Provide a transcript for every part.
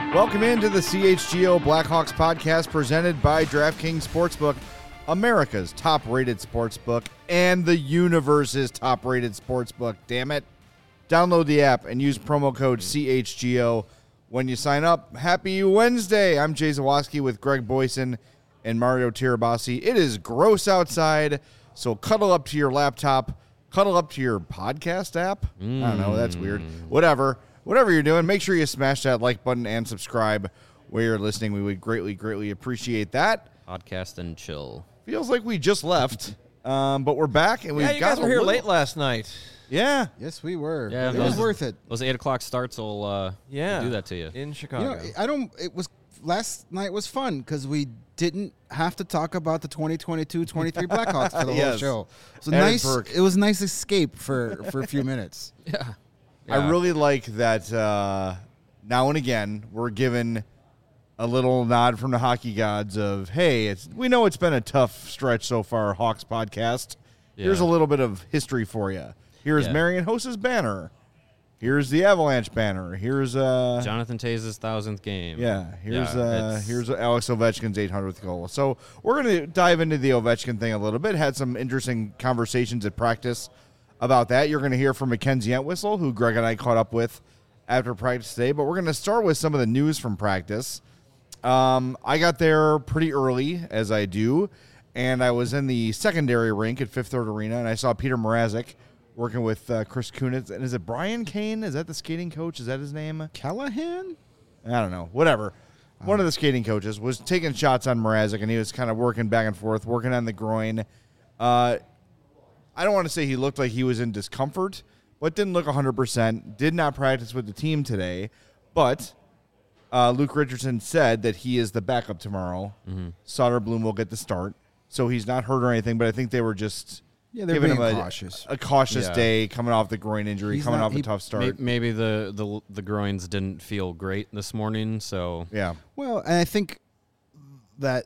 Welcome into the CHGO Blackhawks podcast presented by DraftKings Sportsbook, America's top-rated sportsbook and the universe's top-rated sportsbook. Damn it. Download the app and use promo code CHGO when you sign up. Happy Wednesday. I'm Jay Zawoski with Greg Boyson and Mario Tirabassi. It is gross outside, so cuddle up to your laptop, cuddle up to your podcast app. I don't know. That's weird. Whatever you're doing, make sure you smash that like button and subscribe where you're listening. We would greatly appreciate that. Podcast and chill. Feels like we just left, but we're back. And you guys were here late last night. Yeah. Yes, we were. Yeah, it was worth it. Those 8 o'clock starts will do that to you. In Chicago. Last night was fun because we didn't have to talk about the 2022-23 Blackhawks for the whole show. It was a nice escape for a few minutes. Yeah. I really like that now and again we're given a little nod from the hockey gods of, hey, we know it's been a tough stretch so far, Hawks podcast. Yeah. Here's a little bit of history for you. Here's Marian Hossa's banner. Here's the Avalanche banner. Here's Jonathan Taze's 1,000th game. Yeah. Here's Alex Ovechkin's 800th goal. So we're going to dive into the Ovechkin thing a little bit. Had some interesting conversations at practice about that. You're going to hear from Mackenzie Entwistle, who Greg and I caught up with after practice today. But we're going to start with some of the news from practice. I got there pretty early, as I do, and I was in the secondary rink at Fifth Third Arena, and I saw Peter Mrazek working with Chris Kunitz. And is it Brian Kane? Is that the skating coach? Is that his name? Callahan? I don't know. Whatever. One of the skating coaches was taking shots on Mrazek, and he was kind of working back and forth, working on the groin. I don't want to say he looked like he was in discomfort, but didn't look 100%. Did not practice with the team today, but Luke Richardson said that he is the backup tomorrow. Mm-hmm. Soderblom will get the start, so he's not hurt or anything, but I think they were just giving him a cautious day coming off the groin injury, coming off a tough start. Maybe the groins didn't feel great this morning, so. Yeah. Well, and I think that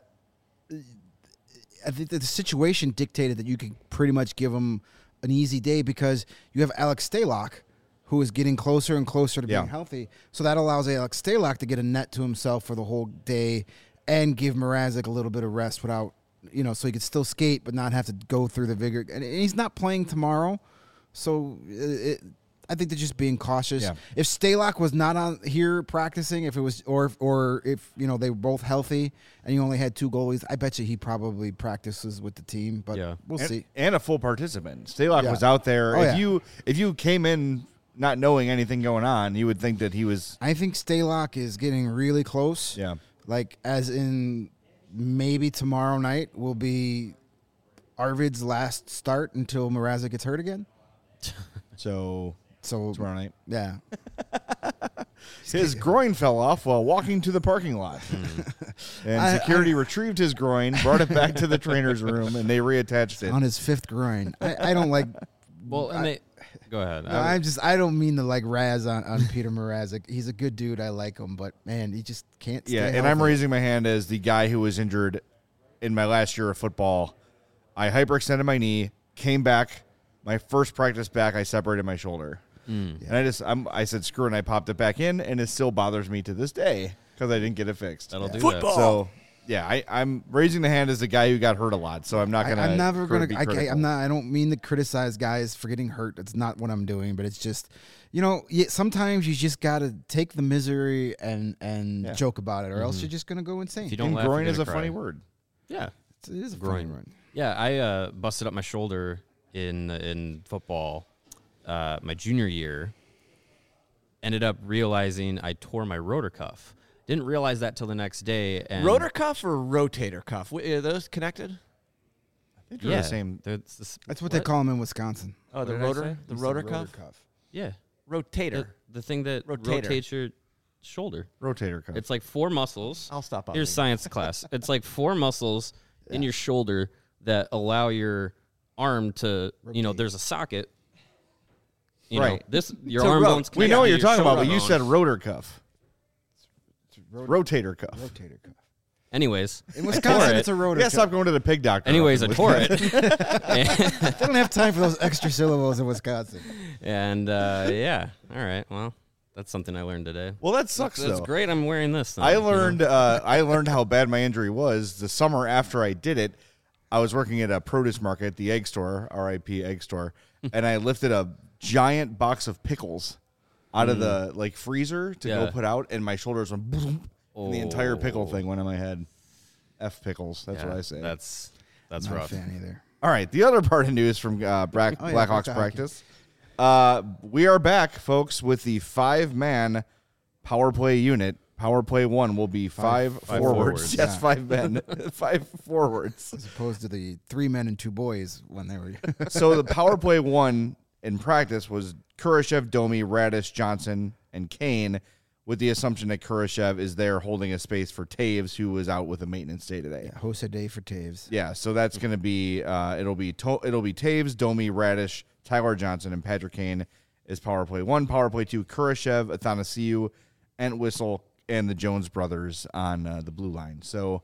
the situation dictated that you could pretty much give him an easy day because you have Alex Stalock, who is getting closer and closer to being healthy. So that allows Alex Stalock to get a net to himself for the whole day and give Mrazek a little bit of rest without, so he could still skate but not have to go through the vigor. And he's not playing tomorrow, so I think they're just being cautious. Yeah. If Stalock was not on here practicing, if it was or if they were both healthy and you only had 2 goalies, I bet you he probably practices with the team. But we'll see. And a full participant. Stalock was out there. If you came in not knowing anything going on, you would think that he was. I think Stalock is getting really close. Yeah. Like as in maybe tomorrow night will be Arvid's last start until Mrazek gets hurt again. So tomorrow night. Yeah. His groin fell off while walking to the parking lot. And security retrieved his groin, brought it back to the trainer's room, and they reattached it. On his 5th groin. I don't like... Well, go ahead. No, I don't mean to like razz on Peter Mrazek. He's a good dude. I like him, but man, he just can't stay healthy. And I'm raising my hand as the guy who was injured in my last year of football. I hyperextended my knee, came back. My first practice back, I separated my shoulder. And I said, screw it, and I popped it back in, and it still bothers me to this day because I didn't get it fixed. That'll do football. So, I'm raising the hand as the guy who got hurt a lot, so I'm not going to I'm never going to I don't mean to criticize guys for getting hurt. That's not what I'm doing, but it's just, sometimes you just got to take the misery and joke about it, or else you're just going to go insane. If you don't laugh, groin is a funny word. Yeah. It is a funny word. Yeah, I busted up my shoulder in football my junior year. Ended up realizing I tore my rotor cuff. Didn't realize that till the next day. And rotor cuff or rotator cuff? Are those connected? I think they're the same. That's what they call them in Wisconsin. Oh, the rotor cuff? Yeah. Rotator. The thing that rotates your shoulder. Rotator cuff. It's like 4 muscles. I'll stop. Here's science class. It's like 4 muscles in your shoulder that allow your arm to, there's a socket. Your arm bones. We know what you're talking about, but you said rotor cuff. Rotator cuff. Rotator cuff. Anyways, in Wisconsin, it's a rotor cuff. Stop going to the pig doctor. Anyways, I tore it. They don't have time for those extra syllables in Wisconsin. And, all right, well, That's something I learned today. Well, that sucks. That's though. great. I'm wearing this. Then, I learned. I learned how bad my injury was the summer after I did it. I was working at a produce market, the egg store, R.I.P. egg store, and I lifted a giant box of pickles out of the freezer to go put out, and my shoulders went boom, and the entire pickle thing went in my head. F pickles. That's what I say. That's Not rough. a fan either. All right. The other part of news from Blackhawks practice. We are back, folks, with the 5-man power play unit. Power play 1 will be five forwards. Yes, Yeah. 5 men, 5 forwards. As opposed to the 3 men and 2 boys when they were. So the power play 1 in practice was Kurashev, Domi, Radish, Johnson, and Kane, with the assumption that Kurashev is there holding a space for Taves, who was out with a maintenance day today. Yeah, Jose Day for Taves. Yeah, so that's going to be it'll be Taves, Domi, Radish, Tyler Johnson, and Patrick Kane is power play 1. Power play 2, Kurashev, Athanasiou, Entwistle, and the Jones brothers on the blue line. So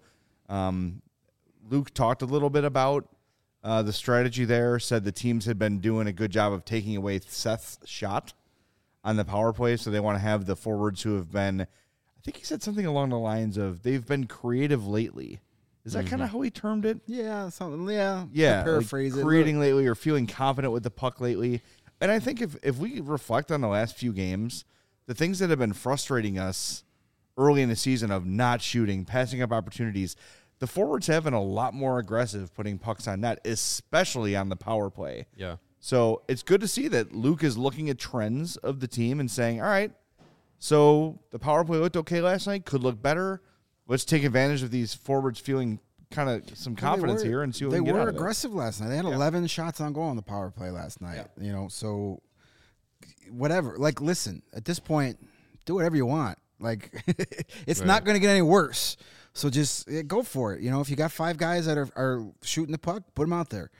Luke talked a little bit about the strategy there, said the teams had been doing a good job of taking away Seth's shot on the power play, so they want to have the forwards who have been, I think he said something along the lines of, they've been creative lately. Is that kind of how he termed it? Yeah, something. Yeah, Yeah, paraphrase like it. creating lately or feeling confident with the puck lately. And I think if we reflect on the last few games, the things that have been frustrating us early in the season of not shooting, passing up opportunities, the forwards have been a lot more aggressive putting pucks on net, especially on the power play. Yeah. So it's good to see that Luke is looking at trends of the team and saying, all right, so the power play looked okay last night, could look better. Let's take advantage of these forwards feeling kind of some confidence here and see what we can get out of it. They were aggressive last night. They had 11 shots on goal on the power play last night. Yeah. You know, so whatever. Like, listen, at this point, do whatever you want. Like, it's not going to get any worse. So just go for it. You know, if you got 5 guys that are shooting the puck, put them out there.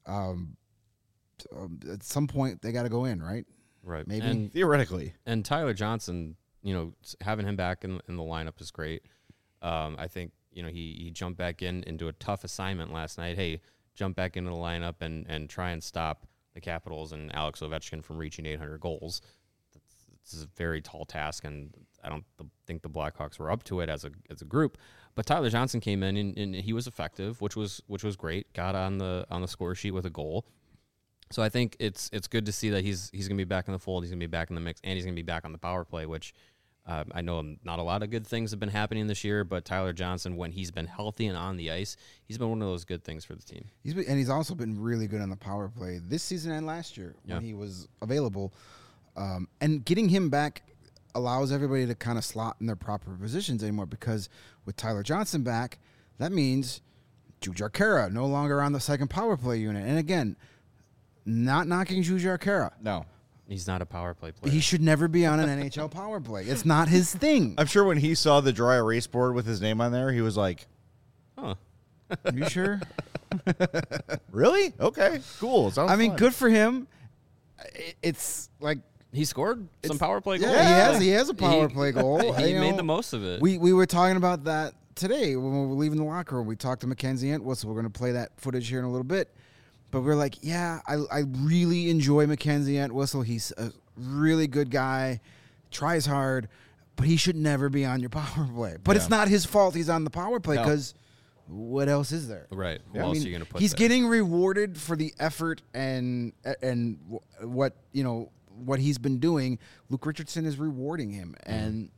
At some point, they got to go in, right? Right. Maybe. And Theoretically. And Tyler Johnson, you know, having him back in the lineup is great. I think, you know, he jumped back into a tough assignment last night. Hey, jump back into the lineup and try and stop the Capitals and Alex Ovechkin from reaching 800 goals. This is a very tall task, and I don't think the Blackhawks were up to it as a group. But Tyler Johnson came in and he was effective, which was great. Got on the score sheet with a goal. So I think it's good to see that he's going to be back in the fold. He's going to be back in the mix, and he's going to be back on the power play, which I know not a lot of good things have been happening this year, but Tyler Johnson, when he's been healthy and on the ice, he's been one of those good things for the team. He's also been really good on the power play this season and last year when he was available. And getting him back allows everybody to kind of slot in their proper positions anymore, because with Tyler Johnson back, that means Jujhar Khaira no longer on the second power play unit. And again, not knocking Jujhar Khaira. No. He's not a power play player. He should never be on an NHL power play. It's not his thing. I'm sure when he saw the dry erase board with his name on there, he was like, Huh. Are you sure? really? Okay, cool. Sounds I mean, fun. good for him. It's like, He scored some power play goals. yeah, he has a power play goal. He You made know, the most of it. We were talking about that today when we were leaving the locker room. We talked to Mackenzie Entwistle. We're going to play that footage here in a little bit. But we're like, yeah, I really enjoy Mackenzie Entwistle. He's a really good guy, tries hard, but he should never be on your power play. But it's not his fault he's on the power play, because what else is there? Right. Yeah. What I else mean, are you going to put He's there? getting rewarded for the effort and what, you know, what he's been doing. Luke Richardson is rewarding him, and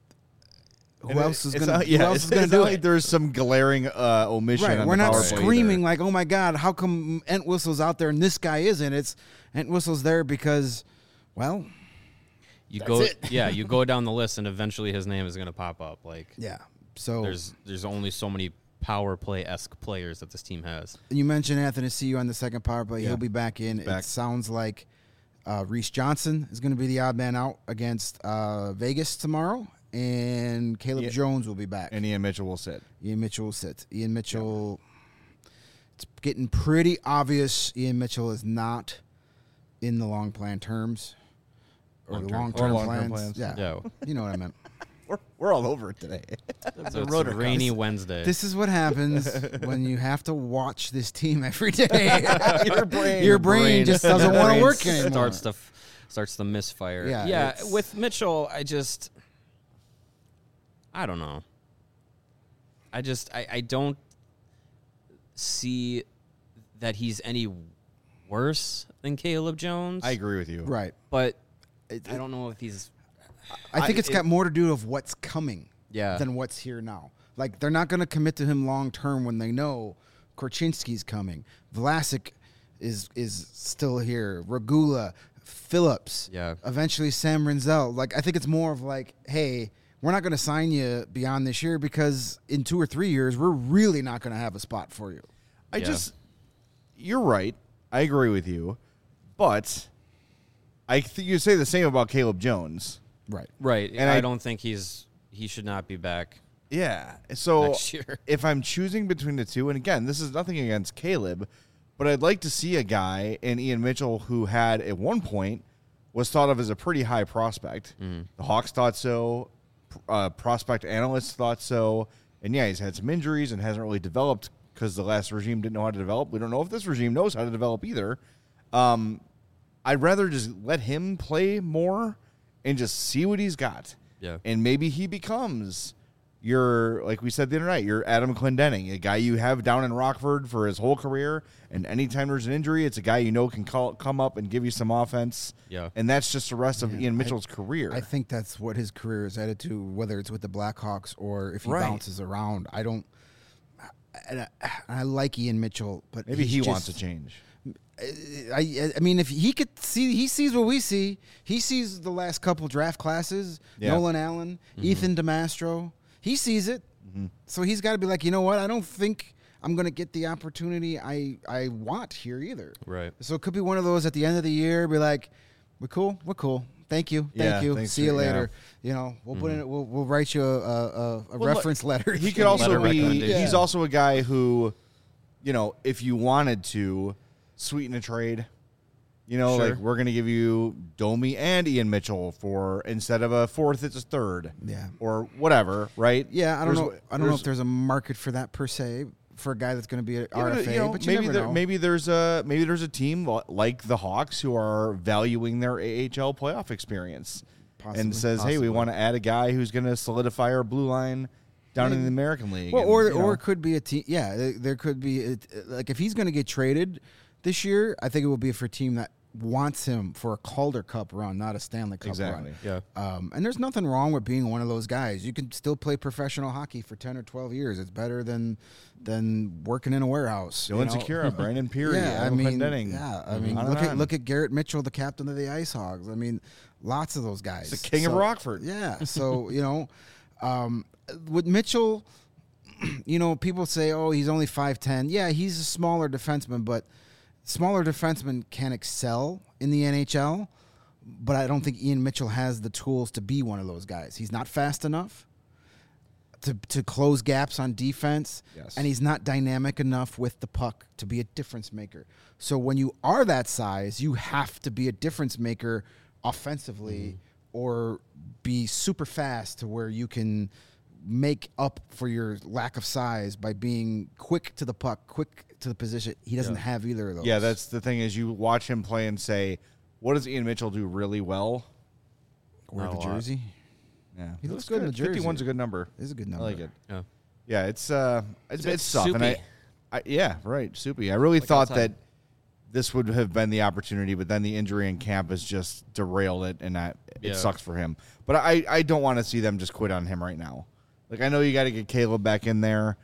who else is going to do like it? there's some glaring omission. Right, on we're the not power play screaming either. like, "Oh my God, how come Entwistle's out there and this guy isn't?" It's Entwistle's there because, well, You That's go, it. you go down the list, and eventually his name is going to pop up. Like, yeah. So there's only so many power play-esque players that this team has. you mentioned Anthony Ciu on the second power play. Yeah. He'll be back in. Back. It sounds like Reese Johnson is going to be the odd man out against Vegas tomorrow, and Caleb Jones will be back. And Ian Mitchell will sit. Ian Mitchell will sit. Ian Mitchell, it's getting pretty obvious Ian Mitchell is not in the long plan terms. Or the Long-term long-term plans. plans. Yeah. Yeah. You know what I meant. We're all over it today. So it's a rainy Wednesday. This is what happens when you have to watch this team every day. Your brain just doesn't want to work anymore. Starts to starts the misfire. Yeah, Yeah. it's- With Mitchell, I don't know. I don't see that he's any worse than Caleb Jones. I agree with you. Right. but I don't know if he's. I think it's got more to do with what's coming Yeah. than what's here now. Like, they're not going to commit to him long term when they know Korchinski's coming. Vlasic is still here. Regula, Phillips. Yeah. Eventually Sam Renzel. Like, I think it's more of like, hey, we're not going to sign you beyond this year because in 2 or 3 years, we're really not going to have a spot for you. You're right. I agree with you. But I think you say the same about Caleb Jones. Right. Right. And I I- don't think he should not be back Yeah. So next year. if I'm choosing between the two, and again, this is nothing against Caleb, but I'd like to see a guy in Ian Mitchell who had at one point was thought of as a pretty high prospect. The Hawks thought so. Prospect analysts thought so. And yeah, he's had some injuries and hasn't really developed because the last regime didn't know how to develop. We don't know if this regime knows how to develop either. I'd rather just let him play more and just see what he's got. Yeah. And maybe he becomes your, like we said the other night, your Adam Clendenning, a guy you have down in Rockford for his whole career. And anytime there's an injury, it's a guy you know can come up and give you some offense. Yeah. And that's just the rest of Ian Mitchell's career. I think that's what his career is headed to, whether it's with the Blackhawks or if he Right. bounces around. I like Ian Mitchell, but Maybe he's he just- wants to change. I mean, if he could see, he sees what we see. He sees the last couple draft classes. Yeah. Nolan Allen, Ethan DeMastro. He sees it, so he's got to be like, you know what? I don't think I'm going to get the opportunity I want here either. Right. So it could be one of those at the end of the year, be like, we're cool. Thank you, Yeah, thank you. thanks See you for- yeah. later. You know, we'll put in. We'll write you a Well, reference letter. He could also Letter be. recommendation. He's also a guy who, you know, if you wanted to sweeten a trade, you know, Sure. like we're going to give you Domi and Ian Mitchell for instead of a fourth, it's a third. Yeah. Or whatever, right? Yeah, I don't There's- know. I don't know if there's a market for that per se for a guy that's going to be an Yeah, RFA. you know, but you never know. maybe there's a team like the Hawks who are valuing their AHL playoff experience Possibly. and says, hey, we want to add a guy who's going to solidify our blue line down in the American League. Well, And, or you know, it could be a team. Yeah, there could be like if he's going to get traded this year, I think it will be for a team that wants him for a Calder Cup run, not a Stanley Cup Exactly. run. Yeah. And there's nothing wrong with being one of those guys. You can still play professional hockey for 10 or 12 years. It's better than working in a warehouse. Dylan Secura, Brandon Peary, Yeah, I Adam mean, Clendenning. yeah, I mean, On and on. look at Garrett Mitchell, the captain of the Ice Hogs. I mean, lots of those guys. He's the king of Rockford. Yeah, so you know, with Mitchell, you know, people say, "Oh, he's only 5'10". Yeah, he's a smaller defenseman, but smaller defensemen can excel in the NHL. But I don't think Ian Mitchell has the tools to be one of those guys. He's not fast enough to close gaps on defense, Yes. and he's not dynamic enough with the puck to be a difference maker. So when you are that size, you have to be a difference maker offensively or be super fast to where you can make up for your lack of size by being quick to the puck, quick to the position. He doesn't have either of those. Yeah, that's the thing is you watch him play and say, what does Ian Mitchell do really well? wear Not the a lot. jersey. Yeah, He looks good in the jersey. 51's a good number. It's a good I number. like it. Yeah. Yeah, it's tough. And soupy. yeah, right, soupy. I really thought outside. that this would have been the opportunity, but then the injury in camp has just derailed it, and it Yeah. sucks for him. But I don't want to see them just quit on him right now. Like, I know you got to get Caleb back in there.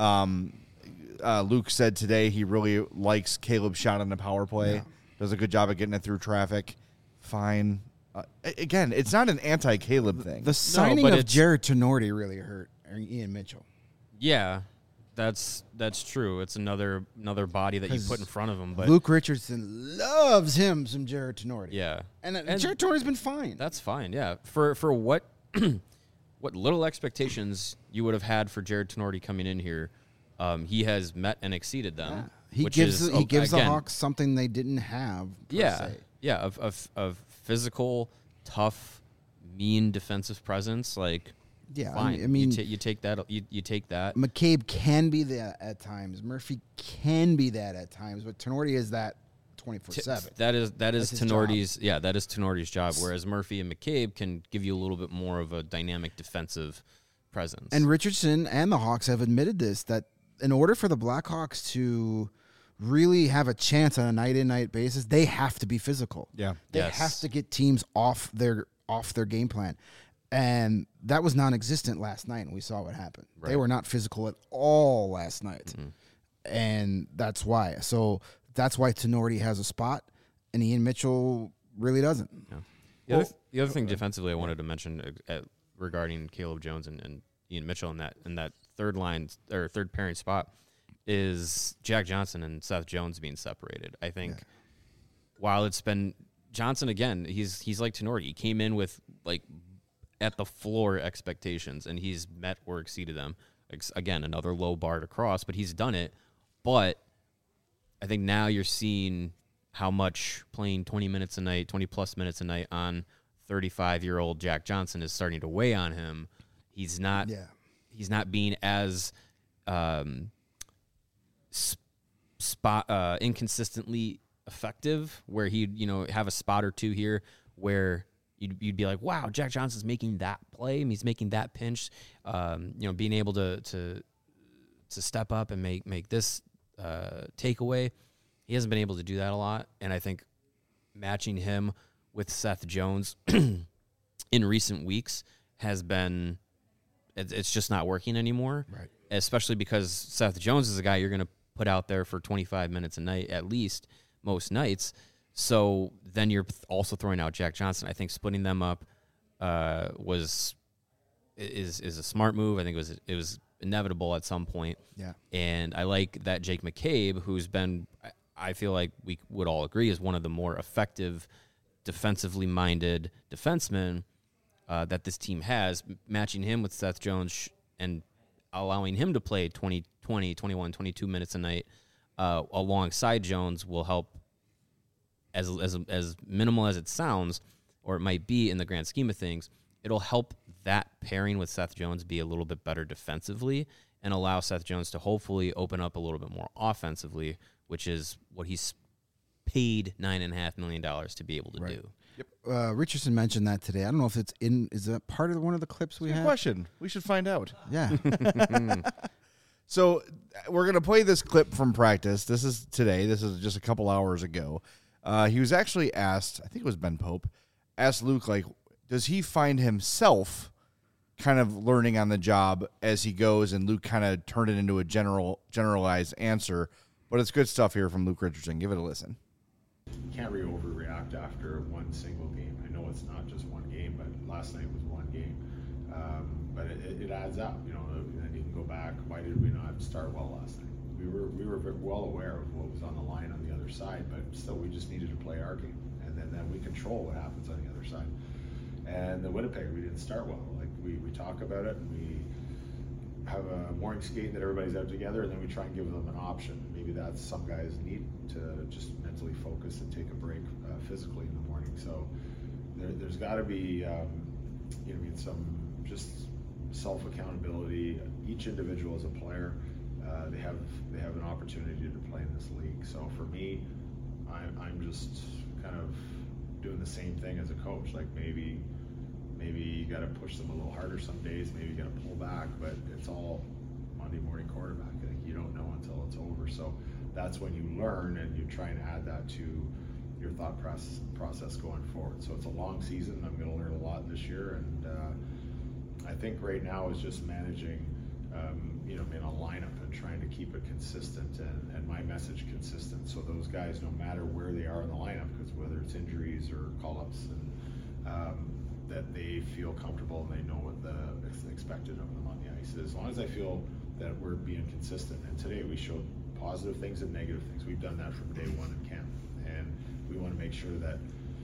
Luke said today he really likes Caleb's shot on the power play. Yeah. Does a good job of getting it through traffic. Fine. Again, it's not an anti-Caleb thing. The signing but of it's- Jared Tenorti really hurt Ian Mitchell. Yeah. That's true. It's another body that you 'Cause put in front of him. But Luke Richardson loves him some Jared Tenorti. yeah, And Jared Tenorti's been fine. that's fine. Yeah, for what what little expectations you would have had for Jared Tenorti coming in here, he has met and exceeded them. He which gives is, the again, Hawks something they didn't have. Per Yeah, se. yeah, of physical, tough, mean defensive presence. Like, Yeah, fine. I mean, you take that. You take that. McCabe can be that at times. Murphy can be that at times, but Tenorti is that 24/7. That is That's his Tenorti's. Yeah, that is Tenorti's job. Whereas Murphy and McCabe can give you a little bit more of a dynamic defensive presence. And Richardson and the Hawks have admitted this, that in order for the Blackhawks to really have a chance on a night-in, night basis, they have to be physical. Yeah. They Yes. have to get teams off their game plan. And that was non-existent last night, and we saw what happened. They were not physical at all last night. And that's why. So that's why Tenorti has a spot, and Ian Mitchell really doesn't. Yeah. The other thing defensively I wanted to mention regarding Caleb Jones and Ian Mitchell in that third line or third pairing spot is Jack Johnson and Seth Jones being separated. I think while it's been Johnson again, he's like Tenorti. He came in with like at the floor expectations, and he's met or exceeded them. Again, another low bar to cross, but he's done it. But I think now you're seeing how much playing 20 minutes a night, 20-plus minutes a night on 35-year-old Jack Johnson is starting to weigh on him. He's not being as inconsistently effective, where he'd have a spot or two here where you'd be like, wow, Jack Johnson's making that play, and he's making that pinch, being able to step up and make this takeaway. He hasn't been able to do that a lot, and I think matching him with Seth Jones in recent weeks has been it's just not working anymore. Right. Especially because Seth Jones is a guy you're going to put out there for 25 minutes a night at least most nights. So then you're also throwing out Jack Johnson. I think splitting them up is a smart move. I think it was inevitable at some point. Yeah. And I like that Jake McCabe, who's been, I feel like we would all agree, is one of the more effective defensively minded defensemen that this team has, matching him with Seth Jones and allowing him to play 20, 21, 22 minutes a night alongside Jones will help. As minimal as it sounds, or it might be in the grand scheme of things, it'll help that pairing with Seth Jones be a little bit better defensively and allow Seth Jones to hopefully open up a little bit more offensively, which is what he's paid $9.5 million to be able to do. Yep. Richardson mentioned that today. I don't know if it's is that part of one of the clips we Good have? question. We should find out. Yeah. So we're going to play this clip from practice. This is today. This is just a couple hours ago. He was actually asked, I think it was Ben Pope, asked Luke, like, does he find himself kind of learning on the job as he goes? And Luke kind of turned it into a generalized answer. But it's good stuff here from Luke Richardson. Give it a listen. You can't really overreact after one single game. I know it's not just one game, but last night was one game. But it adds up, and you can go back. Why did we not start well last night? We were very well aware of what was on the line on the other side, but still we just needed to play our game, and then we control what happens on the other side. And the Winnipeg, we didn't start well. Like we talk about it, and we have a morning skate that everybody's out together, and then we try and give them an option. Maybe that's some guys need to just mentally focus and take a break physically in the morning. So there's got to be some just self accountability. Each individual as a player. They have an opportunity to play in this league. So for me, I'm just kind of doing the same thing as a coach. Like maybe you got to push them a little harder some days. Maybe you got to pull back, but it's all Monday morning quarterback. I think you don't know until it's over. So that's when you learn, and you try and add that to your thought process going forward. So it's a long season. I'm going to learn a lot this year, and I think right now is just managing. In a lineup and trying to keep it consistent and my message consistent. So those guys, no matter where they are in the lineup, because whether it's injuries or call-ups, and that they feel comfortable and they know what is expected of them on the ice. As long as I feel that we're being consistent. And today we showed positive things and negative things. We've done that from day one in camp, and we want to make sure that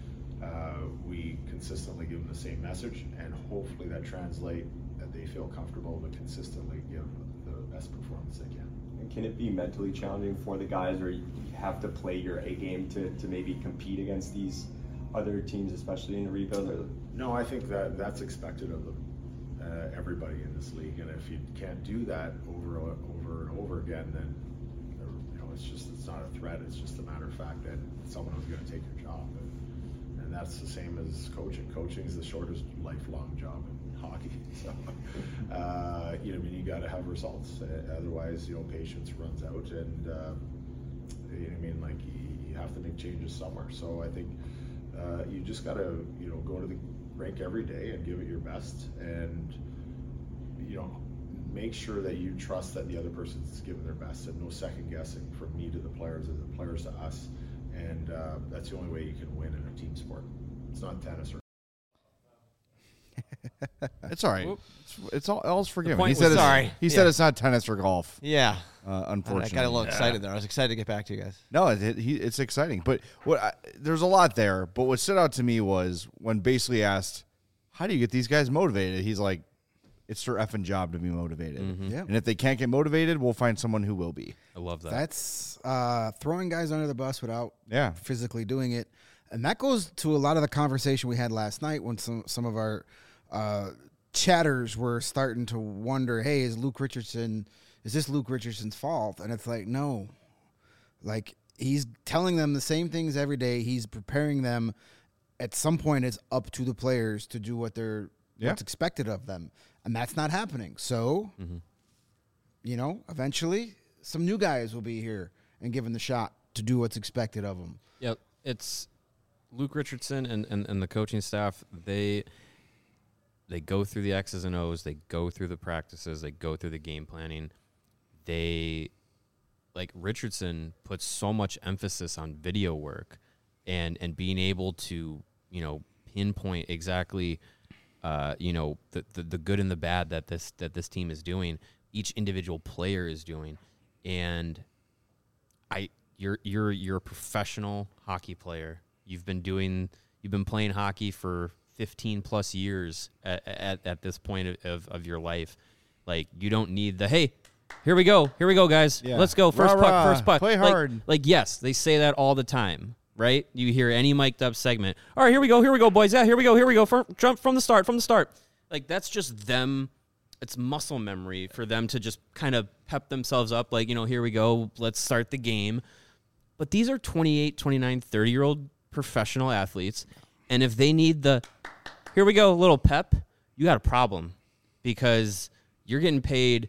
we consistently give them the same message, and hopefully that translate that they feel comfortable to consistently give the best performance they can. And can it be mentally challenging for the guys, or you have to play your A game to maybe compete against these other teams, especially in the rebuild? No, I think that's expected of them, everybody in this league. And if you can't do that over and over again, then it's not a threat. It's just a matter of fact that someone who's going to take your job. And that's the same as coaching. Coaching is the shortest lifelong job in hockey. So, you know, I mean, you got to have results. Otherwise, you know, patience runs out, and you know, I mean, like you have to make changes somewhere. So I think you just got to, you know, go to the rink every day and give it your best, and you know, make sure that you trust that the other person's giving their best, and no second guessing from me to the players or the players to us. And that's the only way you can win in a team sport. It's not tennis or. It's all right. It's all's forgiven. point He said was- it's, Sorry. He said it's not tennis or golf. Yeah. Unfortunately, I got a little excited there. I was excited to get back to you guys. No, it's exciting. But there's a lot there. But what stood out to me was when basically asked, "How do you get these guys motivated?" He's like, "It's their effing job to be motivated. Yeah. And if they can't get motivated, we'll find someone who will be." I love that. That's throwing guys under the bus without Yeah. physically doing it. And that goes to a lot of the conversation we had last night when some of our chatters were starting to wonder, hey, is this Luke Richardson's fault? And it's like, no. Like, he's telling them the same things every day. He's preparing them. At some point, it's up to the players to do what's expected of them. And that's not happening. So, you know, eventually some new guys will be here and given the shot to do what's expected of them. Yep, it's Luke Richardson and the coaching staff. They go through the X's and O's. They go through the practices. They go through the game planning. Like Richardson puts so much emphasis on video work and being able to, you know, pinpoint exactly, you know, the good and the bad that this team is doing. Each individual player is doing, and you're a professional hockey player. You've been playing hockey for 15 plus years at this point of your life. Like, you don't need hey, here we go, guys. Yeah. Let's go. First puck. Play hard. Like, yes, they say that all the time, right? You hear any mic'd up segment. All right, here we go, boys. Yeah, here we go. Jump from the start. Like, that's just them. It's muscle memory for them to just kind of pep themselves up. Like, you know, here we go. Let's start the game. But these are 28, 29, 30-year-old professional athletes. And if they need here we go, little pep, you got a problem, because you're getting paid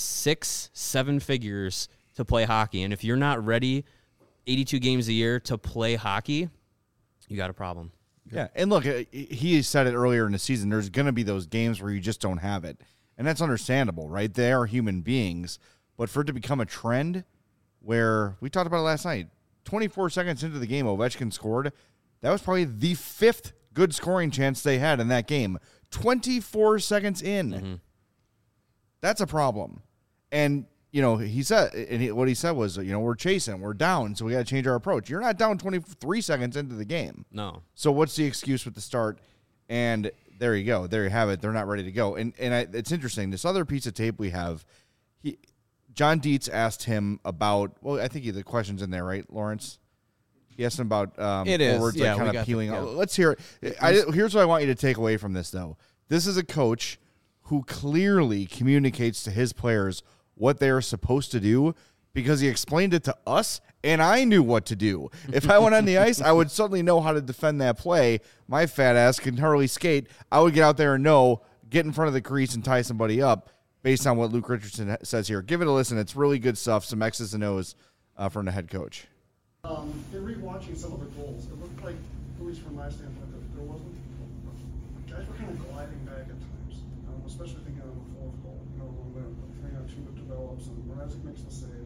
6-7 figures to play hockey. And if you're not ready 82 games a year to play hockey, you got a problem. Yeah, and look, he said it earlier in the season, there's going to be those games where you just don't have it. And that's understandable, right? They are human beings. But for it to become a trend where, we talked about it last night, 24 seconds into the game, Ovechkin scored. That was probably the 5th good scoring chance they had in that game. 24 seconds in. Mm-hmm. That's a problem. And, you know, he said, what he said was, you know, we're chasing, we're down, so we got to change our approach. You're not down 23 seconds into the game. No. So what's the excuse with the start? And there you go. There you have it. They're not ready to go. And it's interesting. This other piece of tape we have, John Dietz asked him about, well, I think the question's in there, right, Lawrence? He asked him about forwards, Yeah, like, we kind of got peeling the- out. Let's hear it. Here's what I want you to take away from this, though. This is a coach who clearly communicates to his players what they are supposed to do, because he explained it to us, and I knew what to do. If I went on the ice, I would certainly know how to defend that play. My fat ass can hardly skate. I would get out there and get in front of the crease and tie somebody up based on what Luke Richardson says here. Give it a listen. It's really good stuff, some X's and O's from the head coach. In rewatching some of the goals, it looked like, at least from my standpoint, that there wasn't. Guys were kind of gliding back at times, especially thinking on the fourth goal. You know, when the 3-on-2 develops and Mrazek makes the save.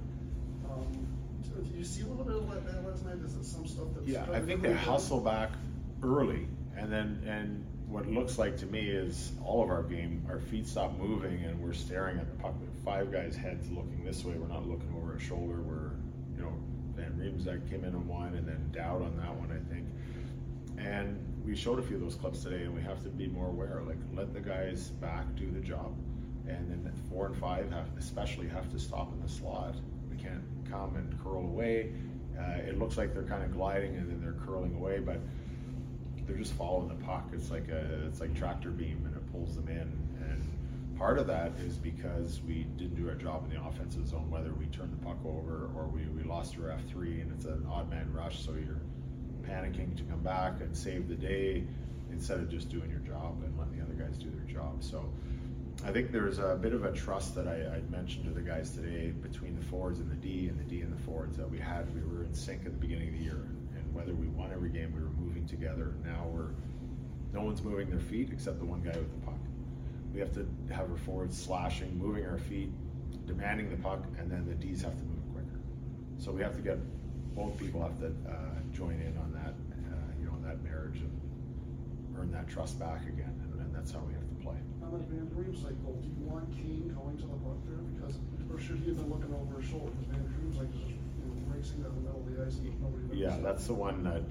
Do you see a little bit of that last night? Is it some stuff that's? Yeah, I think they hustle back early, and what looks like to me is all of our game, our feet stop moving, and we're staring at the puck with 5 guys' heads looking this way. We're not looking over our shoulder. We're, you know, Van Riemsdyk came in on one, and then Dowd on that one, I think. And we showed a few of those clips today, and we have to be more aware. Like, let the guys back do the job, and then 4 and 5 especially have to stop in the slot. We can't come and curl away. It looks like they're kind of gliding, and then they're curling away, but they're just following the puck. It's like tractor beam, and it pulls them in. And part of that is because we didn't do our job in the offensive zone, whether we turned the puck over or we lost our F3, and it's an odd man rush, so you're panicking to come back and save the day instead of just doing your job and letting the other guys do their job. So I think there's a bit of a trust that I mentioned to the guys today between the forwards and the D and the forwards that we were in sync at the beginning of the year, and whether we won every game, we were moving together. Now no one's moving their feet except the one guy with the puck. We have to have our forwards slashing, moving our feet, demanding the puck, and then the Ds have to move quicker. So we have to get, both people have to join in on that, that marriage, and earn that trust back again, and that's how we have to play. On that Van Dream cycle, do you want Kane going to the puck there? Because, or should he have been looking over his shoulder? Because Van Dream's like just racing down the middle of the ice and there's nobody there. Yeah, that's the one that,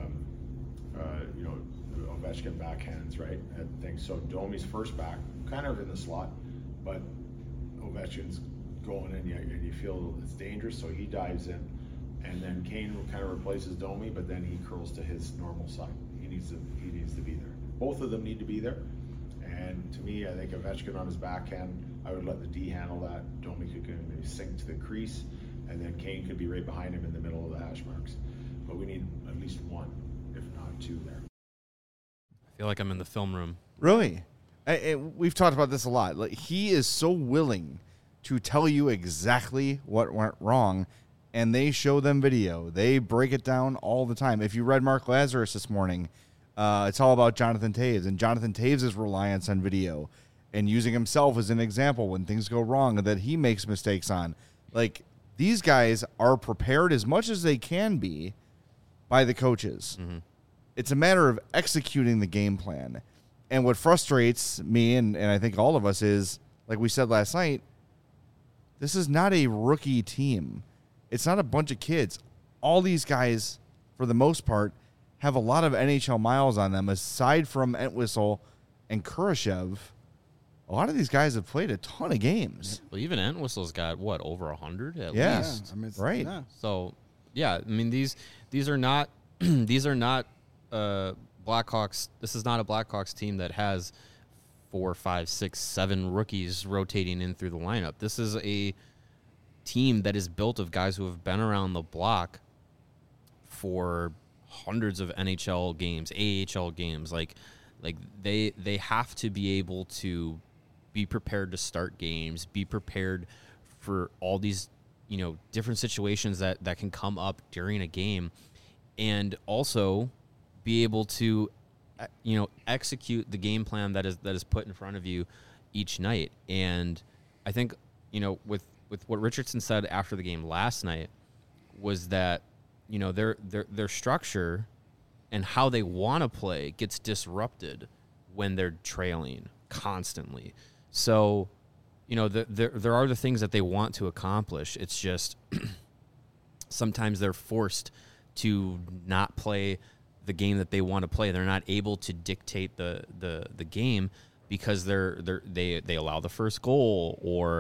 Ovechkin backhands, right? And things. So Domi's first back, kind of in the slot, but Ovechkin's going in, and you feel it's dangerous, so he dives in. And then Kane kind of replaces Domi, but then he curls to his normal side. He needs to be there. Both of them need to be there. And to me, I think Ovechkin on his backhand, I would let the D handle that. Domi could maybe sink to the crease, and then Kane could be right behind him in the middle of the hash marks. But we need at least one, if not two, there. I feel like I'm in the film room. Really? We've talked about this a lot. Like, he is so willing to tell you exactly what went wrong, and they show them video. They break it down all the time. If you read Mark Lazarus this morning, it's all about Jonathan Toews and Jonathan Toews' reliance on video and using himself as an example when things go wrong that he makes mistakes on. Like, these guys are prepared as much as they can be by the coaches. Mm-hmm. It's a matter of executing the game plan. And what frustrates me, and I think all of us, is, like we said last night, this is not a rookie team. It's not a bunch of kids. All these guys, for the most part, have a lot of NHL miles on them. Aside from Entwistle and Kurashev, a lot of these guys have played a ton of games. Well, even Entwistle's got, what, over 100 at yeah. least? I mean, right. Yeah. So, yeah, I mean, these are not these are not Blackhawks. This is not a Blackhawks team that has 4, 5, 6, 7 rookies rotating in through the lineup. This is a team that is built of guys who have been around the block for hundreds of NHL games, AHL games. Like they have to be able to be prepared to start games, be prepared for all these, different situations that can come up during a game, and also be able to, execute the game plan that is put in front of you each night. And I think, with what Richardson said after the game last night was that, their structure and how they want to play gets disrupted when they're trailing constantly. So, there are the things that they want to accomplish. It's just sometimes they're forced to not play the game that they want to play. They're not able to dictate the game because they allow the first goal, or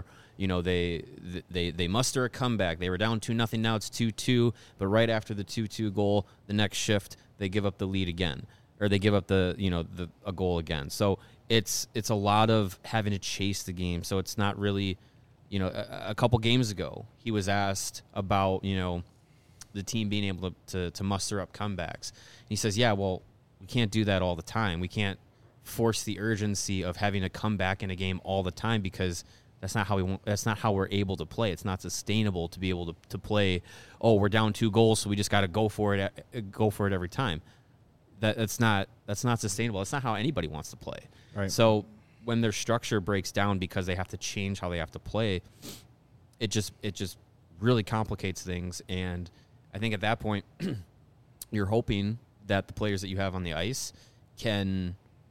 they muster a comeback. They were down 2-0, now it's 2-2, but right after the 2-2 goal, the next shift they give up the lead again, or they give up a goal again. So it's a lot of having to chase the game. So it's not really, a couple games ago he was asked about the team being able to muster up comebacks. And he says, yeah, well, we can't do that all the time. We can't force the urgency of having to come back in a game all the time, because that's not how we're able to play. It's not sustainable to be able to play, oh, we're down 2 goals, so we just got to go for it every time. That's not sustainable. That's not how anybody wants to play. Right. So when their structure breaks down because they have to change how they have to play, it just really complicates things. And I think at that point, you're hoping that the players that you have on the ice can,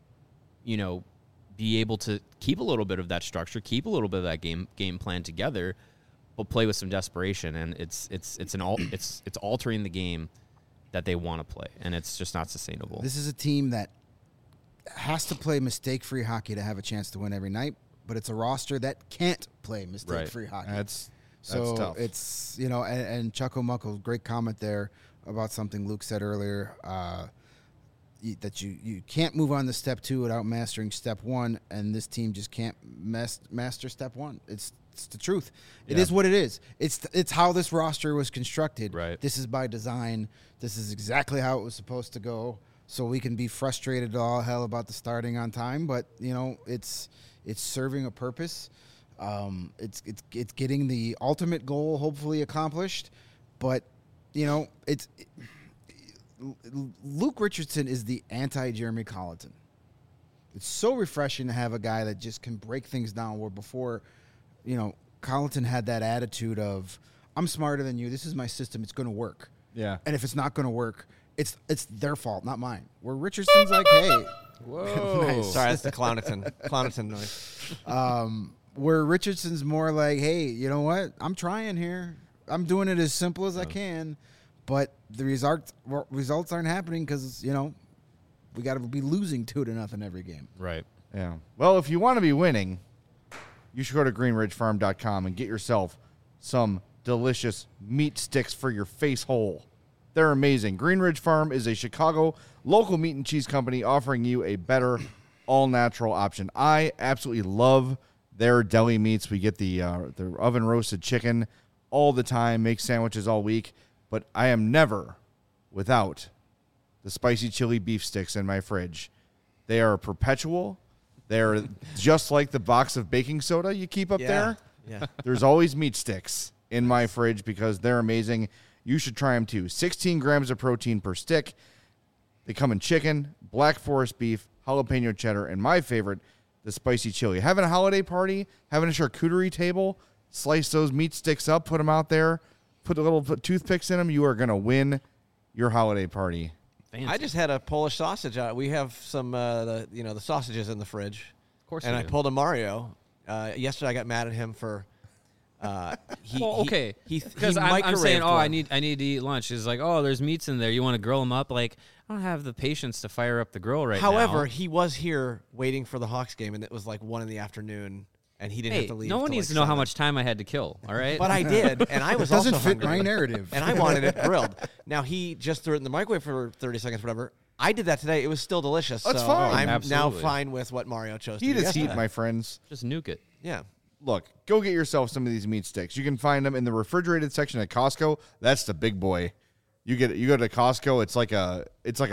be able to keep a little bit of that structure, keep a little bit of that game plan together, but play with some desperation. And it's altering the game that they want to play, and it's just not sustainable. This is a team that has to play mistake-free hockey to have a chance to win every night, but it's a roster that can't play mistake-free hockey. That's So tough. it's, and Chuck O'Muckle, great comment there about something Luke said earlier, that you can't move on to step 2 without mastering step 1, and this team just can't master step 1. It's It's the truth. It Yeah. is what it is. It's how this roster was constructed. Right. This is by design. This is exactly how it was supposed to go. So we can be frustrated to all hell about the starting on time, but it's serving a purpose. It's getting the ultimate goal hopefully accomplished, but Luke Richardson is the anti-Jeremy Colleton. It's so refreshing to have a guy that just can break things down where before, Colleton had that attitude of, I'm smarter than you. This is my system. It's going to work. Yeah. And if it's not going to work, it's their fault, not mine. Where Richardson's like, hey. Whoa. Nice. Sorry, that's the Clowneton noise. Where Richardson's more like, hey, you know what? I'm trying here. I'm doing it as simple as I can, but the results aren't happening because, we got to be losing 2-0 every game. Right. Yeah. Well, if you want to be winning, you should go to greenridgefarm.com and get yourself some delicious meat sticks for your face hole. They're amazing. Green Ridge Farm is a Chicago local meat and cheese company offering you a better all-natural option. I absolutely love their deli meats. We get the oven-roasted chicken all the time, make sandwiches all week, but I am never without the spicy chili beef sticks in my fridge. They are perpetual. They're just like the box of baking soda you keep up there. Yeah. There's always meat sticks in my fridge because they're amazing. You should try them too. 16 grams of protein per stick. They come in chicken, black forest beef, jalapeno cheddar, and my favorite, the spicy chili. Having a holiday party, having a charcuterie table, slice those meat sticks up, put them out there, put the little toothpicks in them. You are going to win your holiday party. Fancy. I just had a Polish sausage. We have some, the sausages in the fridge. Of course. And you I do. pulled a Mario. Yesterday, I got mad at him for. Because I'm saying, I need to eat lunch. He's like, there's meats in there. You want to grill them up? Like, I don't have the patience to fire up the grill right now. However, he was here waiting for the Hawks game, and it was like 1 PM, and he didn't have to leave. No one till needs like to know how 7. much time I had to kill. All right, But I did, and I was Doesn't also fit hungry, my narrative. and I wanted it grilled. Now he just threw it in the microwave for 30 seconds, whatever. I did that today. It was still delicious. That's so fine. I'm now Absolutely. fine with what Mario chose. to Heat do is heat, yesterday. my friends. just nuke it. Yeah. Look, go get yourself some of these meat sticks. You can find them in the refrigerated section at Costco. That's the big boy. You go to Costco. It's like a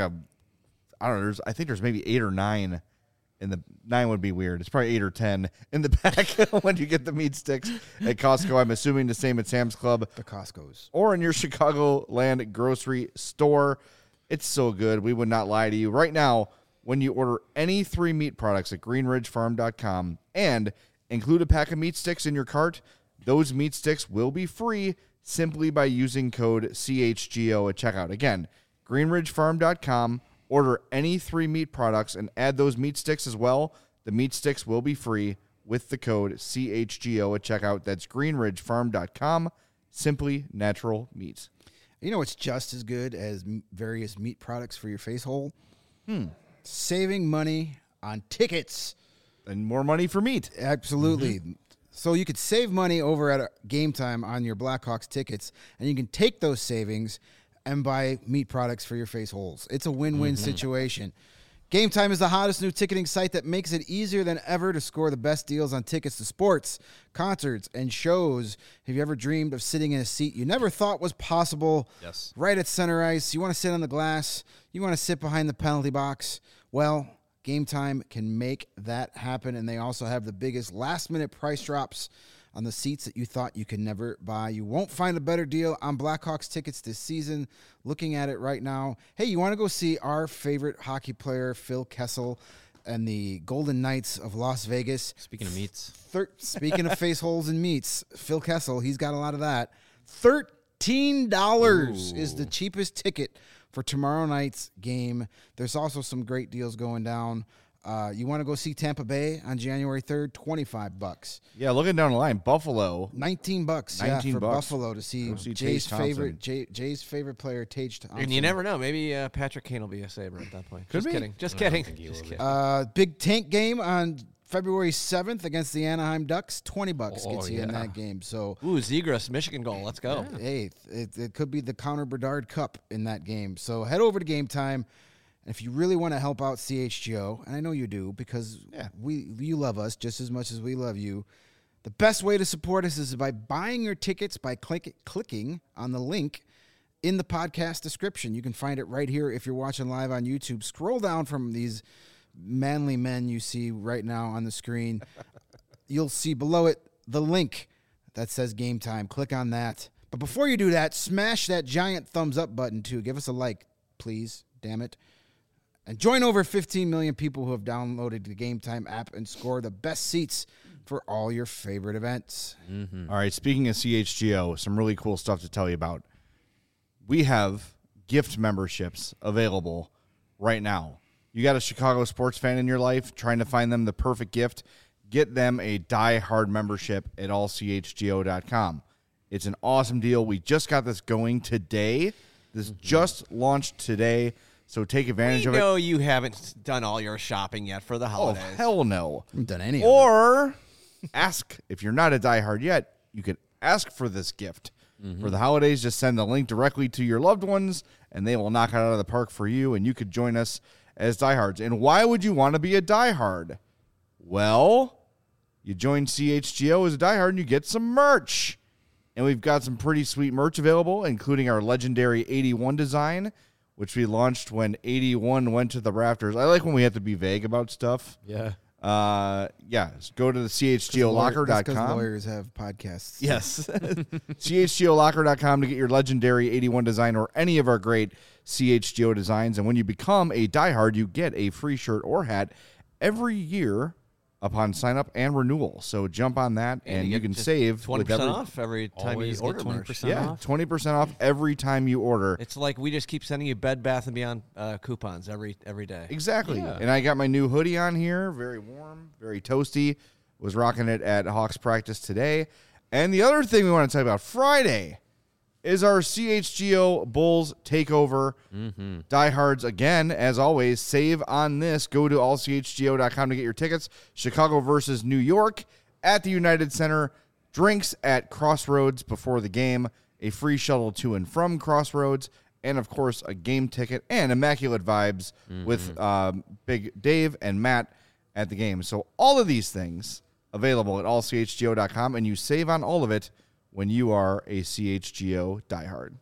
I don't know. I think there's maybe 8 or 9. And the 9 would be weird. It's probably 8 or 10 in the back when you get the meat sticks at Costco. I'm assuming the same at Sam's Club The Costco's. or in your Chicagoland grocery store. It's so good. We would not lie to you. Right now, when you order any 3 meat products at greenridgefarm.com and include a pack of meat sticks in your cart, those meat sticks will be free simply by using code CHGO at checkout. Again, greenridgefarm.com. Order any 3 meat products and add those meat sticks as well. The meat sticks will be free with the code CHGO at checkout. That's greenridgefarm.com. Simply natural meats. You know what's just as good as various meat products for your face hole? Saving money on tickets. And more money for meat. Absolutely. So you could save money over at Game Time on your Blackhawks tickets, and you can take those savings and buy meat products for your face holes. It's a win-win situation. Game Time is the hottest new ticketing site that makes it easier than ever to score the best deals on tickets to sports, concerts, and shows. Have you ever dreamed of sitting in a seat you never thought was possible? Yes. Right at center ice. You want to sit on the glass. You want to sit behind the penalty box. Well, Game Time can make that happen, and they also have the biggest last-minute price drops on the seats that you thought you could never buy. You won't find a better deal on Blackhawks tickets this season. Looking at it right now, hey, you want to go see our favorite hockey player, Phil Kessel, and the Golden Knights of Las Vegas? Speaking of meats, Speaking of face holes and meats, Phil Kessel, he's got a lot of that. $13 is the cheapest ticket for tomorrow night's game. There's also some great deals going down. You want to go see Tampa Bay on January 3rd? $25. Yeah, looking down the line, Buffalo. $19. $19 for Buffalo to see Go see Jay's Tage favorite Jay's favorite player, Tage Thompson. And you never know. Maybe Patrick Kane will be a Sabre at that point. Could Just be. kidding. Just I kidding. don't think he Just will kidding. Big tank game on February 7th against the Anaheim Ducks. $20 Oh, gets you in yeah. that game. So Ooh, Zegras, Michigan goal. Let's go. hey, it could be the Connor Bedard Cup in that game. So head over to Game Time. And if you really want to help out CHGO, and I know you do because you love us just as much as we love you, The best way to support us is by buying your tickets by clicking on the link in the podcast description. You can find it right here if you're watching live on YouTube. Scroll down from these manly men you see right now on the screen. You'll see below it the link that says Game Time. Click on that. But before you do that, smash that giant thumbs up button too. Give us a like, please. Damn it. And join over 15 million people who have downloaded the Game Time app and score the best seats for all your favorite events. Mm-hmm. All right, speaking of CHGO, some really cool stuff to tell you about. We have gift memberships available right now. You got a Chicago sports fan in your life trying to find them the perfect gift? Get them a Die Hard membership at allchgo.com. It's an awesome deal. We just got this going today. This just launched today, so take advantage of it. We know you haven't done all your shopping yet for the holidays. Oh, hell no. I haven't done any Or ask, if you're not a Die Hard yet, you could ask for this gift. For the holidays, just send the link directly to your loved ones, and they will knock it out of the park for you, and you could join us as diehards. And why would you want to be a diehard? Well, you join CHGO as a diehard, and you get some merch. And we've got some pretty sweet merch available, including our legendary 81 design, which we launched when 81 went to the rafters. I like when we have to be vague about stuff. Yeah. Go to the chgolocker.com. Because lawyers have podcasts. Yes. chgolocker.com to get your legendary 81 design or any of our great CHGO designs. And when you become a diehard, you get a free shirt or hat every year upon sign up and renewal. So jump on that, and you can save 20% off every time you order 20% off. 20% off every time you order. It's like we just keep sending you Bed Bath & Beyond coupons every day. Exactly. Yeah. And I got my new hoodie on here, very warm, very toasty. Was rocking it at Hawks practice today. And the other thing we want to tell you about Friday is our CHGO Bulls takeover. Diehards, again, as always, save on this. Go to allchgo.com to get your tickets. Chicago versus New York at the United Center. Drinks at Crossroads before the game. A free shuttle to and from Crossroads. And, of course, a game ticket and immaculate vibes with Big Dave and Matt at the game. So all of these things available at allchgo.com, and you save on all of it when you are a CHGO diehard.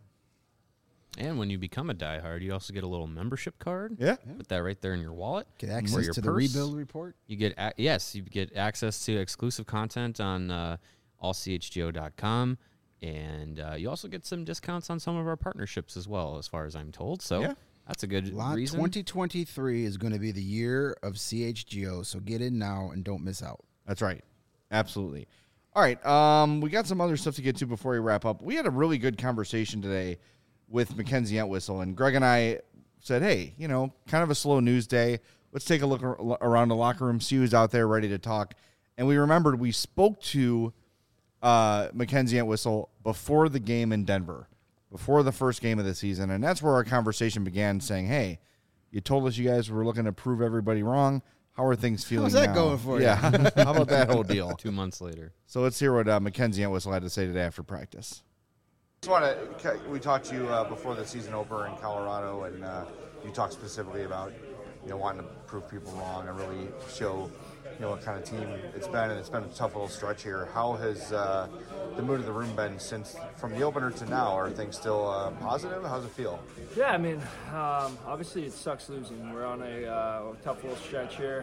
And when you become a diehard, you also get a little membership card. Yeah. Put that right there in your wallet. Get or access your to the purse. rebuild report. You get you get access to exclusive content on allchgo.com, and you also get some discounts on some of our partnerships as well, as far as I'm told. So that's a good reason. 2023 is going to be the year of CHGO, so get in now and don't miss out. That's right. Absolutely. All right, we got some other stuff to get to before we wrap up. We had a really good conversation today with Mackenzie Entwistle, and Greg and I said, hey, kind of a slow news day. Let's take a look around the locker room, see who's out there ready to talk. And we remembered we spoke to Mackenzie Entwistle before the game in Denver, before the first game of the season, and that's where our conversation began, saying, hey, you told us you guys were looking to prove everybody wrong. How are things feeling How's that now? going for you? Yeah. How about that whole deal? 2 months later. So let's hear what Mackenzie Entwistle had to say today after practice. We talked to you before the season opener in Colorado, and you talked specifically about wanting to prove people wrong and really show what kind of team it's been, and it's been a tough little stretch here. How has the mood of the room been since from the opener to now? Are things still positive? How's it feel? Yeah, I mean, obviously it sucks losing. We're on a tough little stretch here.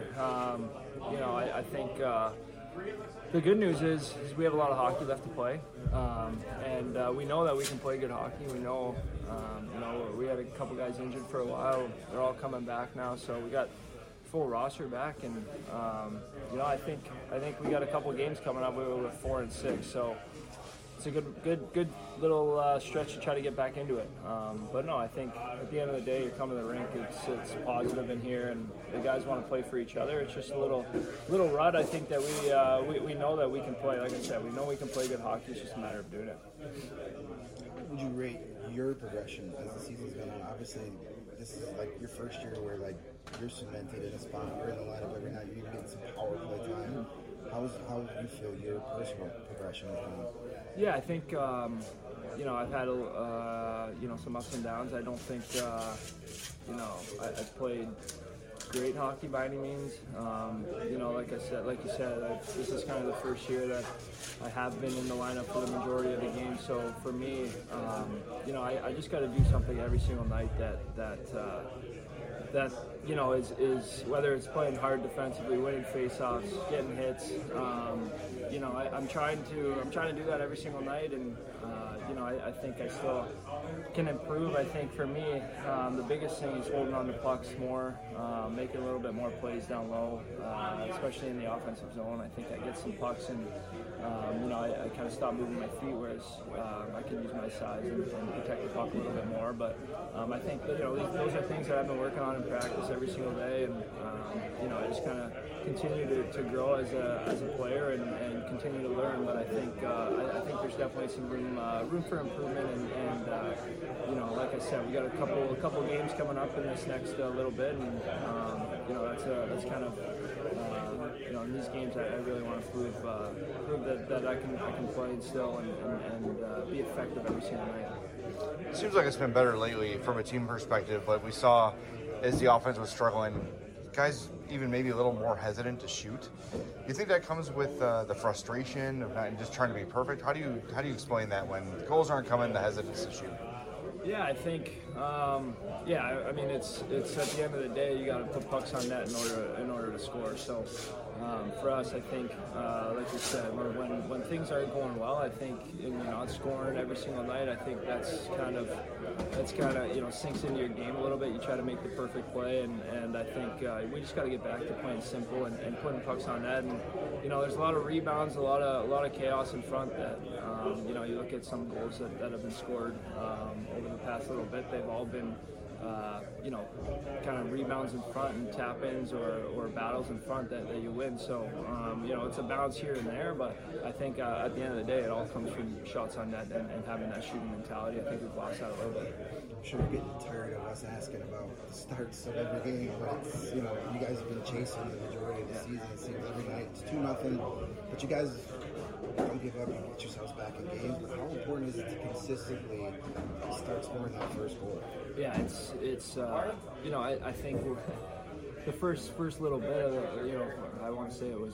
I think the good news is we have a lot of hockey left to play, and we know that we can play good hockey. We know, we had a couple guys injured for a while. They're all coming back now, so we got full roster back, and I think we got a couple games coming up. We're 4 and 6, so it's a good little stretch to try to get back into it. But no, I think at the end of the day, you come to the rink, it's positive in here, and the guys want to play for each other. It's just a little rut. I think that we know that we can play. Like I said, we know we can play good hockey. It's just a matter of doing it. Would you rate your progression as the season's going on? Obviously, this is like your first year where you're cemented in a spot. You're in the lineup every night. You're getting some power play time. How do you feel your personal progression is going? Yeah, I think I've had some ups and downs. I don't think I've played great hockey by any means. You know, like you said, this is kind of the first year that I have been in the lineup for the majority of the game. So for me, you know, I just got to do something every single night that you know is whether it's playing hard defensively, winning faceoffs, getting hits. You know, I'm trying to do that every single night, and you know, I think I still can improve. I think for me, the biggest thing is holding on to pucks more, making a little bit more plays down low, especially in the offensive zone. I think I get some pucks, and you know, I kind of stop moving my feet, whereas I can use my size and protect the puck a little bit more. But I think that, you know, those are things that I've been working on in practice every single day, and you know, I just kind of continue to grow as a player and continue to learn. But I think there's definitely some room for improvement, and you know, like I said, we got a couple games coming up in this next little bit, and you know, that's kind of you know, in these games I really want to prove that I can play still and be effective every single night. It seems like it's been better lately from a team perspective, but we saw as the offense was struggling, guys even maybe a little more hesitant to shoot. Do you think that comes with the frustration of not just trying to be perfect? How do you explain that when goals aren't coming, the hesitance to shoot? Yeah, I think, yeah, I mean, it's at the end of the day, you got to put pucks on net in order to score. So for us, I think, like you said, when things aren't going well, I think, and you're not scoring every single night, I think that's kind of you know, sinks into your game a little bit. You try to make the perfect play, and I think we just got to get back to playing simple and putting pucks on net. And you know, there's a lot of rebounds, a lot of chaos in front that you know, you look at some goals that have been scored over the past little bit, they've all been you know, kind of rebounds in front and tap-ins or battles in front that you win. So, you know, it's a balance here and there, but I think at the end of the day, it all comes from shots on net and having that shooting mentality. I think we've lost that a little bit. I'm sure you're getting tired of us asking about the starts of every game, but it's, you know, you guys have been chasing the majority of the season. It seems every night it's 2-0, but you guys don't give up and get yourselves back in games. But how important is it to consistently start scoring that first goal? Yeah, it's you know, I think the first little bit of it, you know, I want to say it was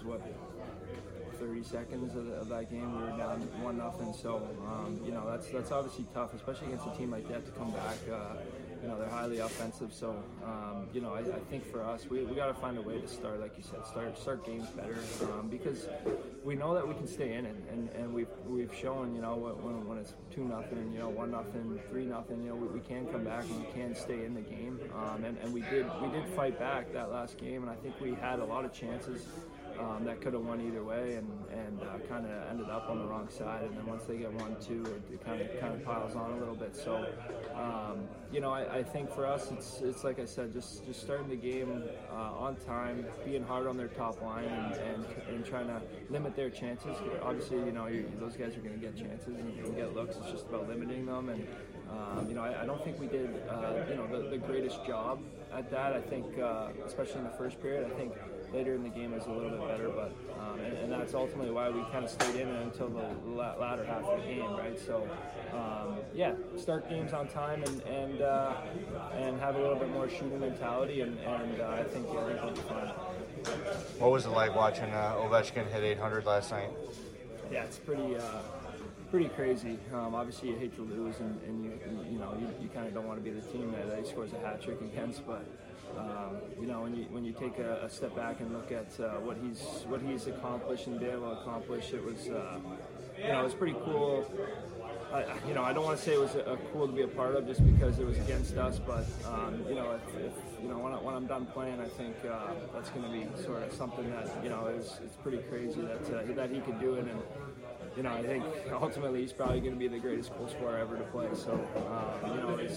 30 seconds of that game, we were down 1-0. So you know, that's obviously tough, especially against a team like that to come back. You know, they're highly offensive, so you know, I think for us, we got to find a way to start, like you said, start games better, because we know that we can stay in it, and we've shown, you know, when it's 2-0, you know, 1-0, 3-0, you know, we can come back and we can stay in the game, and we did fight back that last game, and I think we had a lot of chances that could have won either way, and kind of ended up on the wrong side. And then once they get 1-2, it kind of piles on a little bit. So, you know, I think for us, it's like I said, just starting the game on time, being hard on their top line, and trying to limit their chances. Obviously, you know, those guys are going to get chances and get looks. It's just about limiting them. And you know, I don't think we did you know, the greatest job at that. I think, especially in the first period, I think later in the game was a little bit better, but and that's ultimately why we kind of stayed in it until the latter half of the game, right? So, yeah, start games on time and have a little bit more shooting mentality, and I think we'll be fine. What was it like watching Ovechkin hit 800 last night? Yeah, it's pretty crazy. Obviously, you hate to lose, and you know, you kind of don't want to be the team that he scores a hat trick against, but. You know, when you take a step back and look at what he's accomplished and been able to accomplish, it was you know, it was pretty cool. You know, I don't want to say it was cool to be a part of just because it was against us, but you know, if you know, when I'm done playing, I think that's going to be sort of something that, you know, it's pretty crazy that he could do it. And you know, I think ultimately he's probably going to be the greatest goal scorer ever to play. So, you know, it's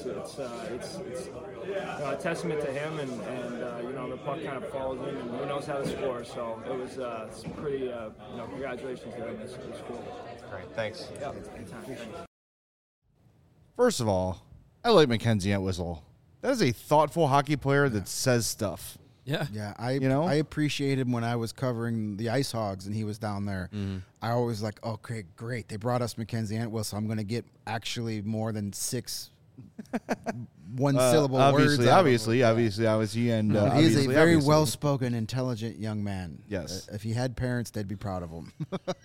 you know, a testament to him, and you know, the puck kind of falls in, and he knows how to score. So it was pretty, you know, congratulations to him. It's cool. Great, thanks. Yeah, anytime. Thanks. First of all, I like Mackenzie Entwistle. That is a thoughtful hockey player that says stuff. Yeah. I appreciated him when I was covering the Ice Hogs and he was down there. Mm-hmm. I always like, okay, great. They brought us Mackenzie Entwistle, so I'm going to get actually more than 6 one syllable words. Obviously, and he is obviously, a very well-spoken, intelligent young man. Yes. If he had parents, they'd be proud of him.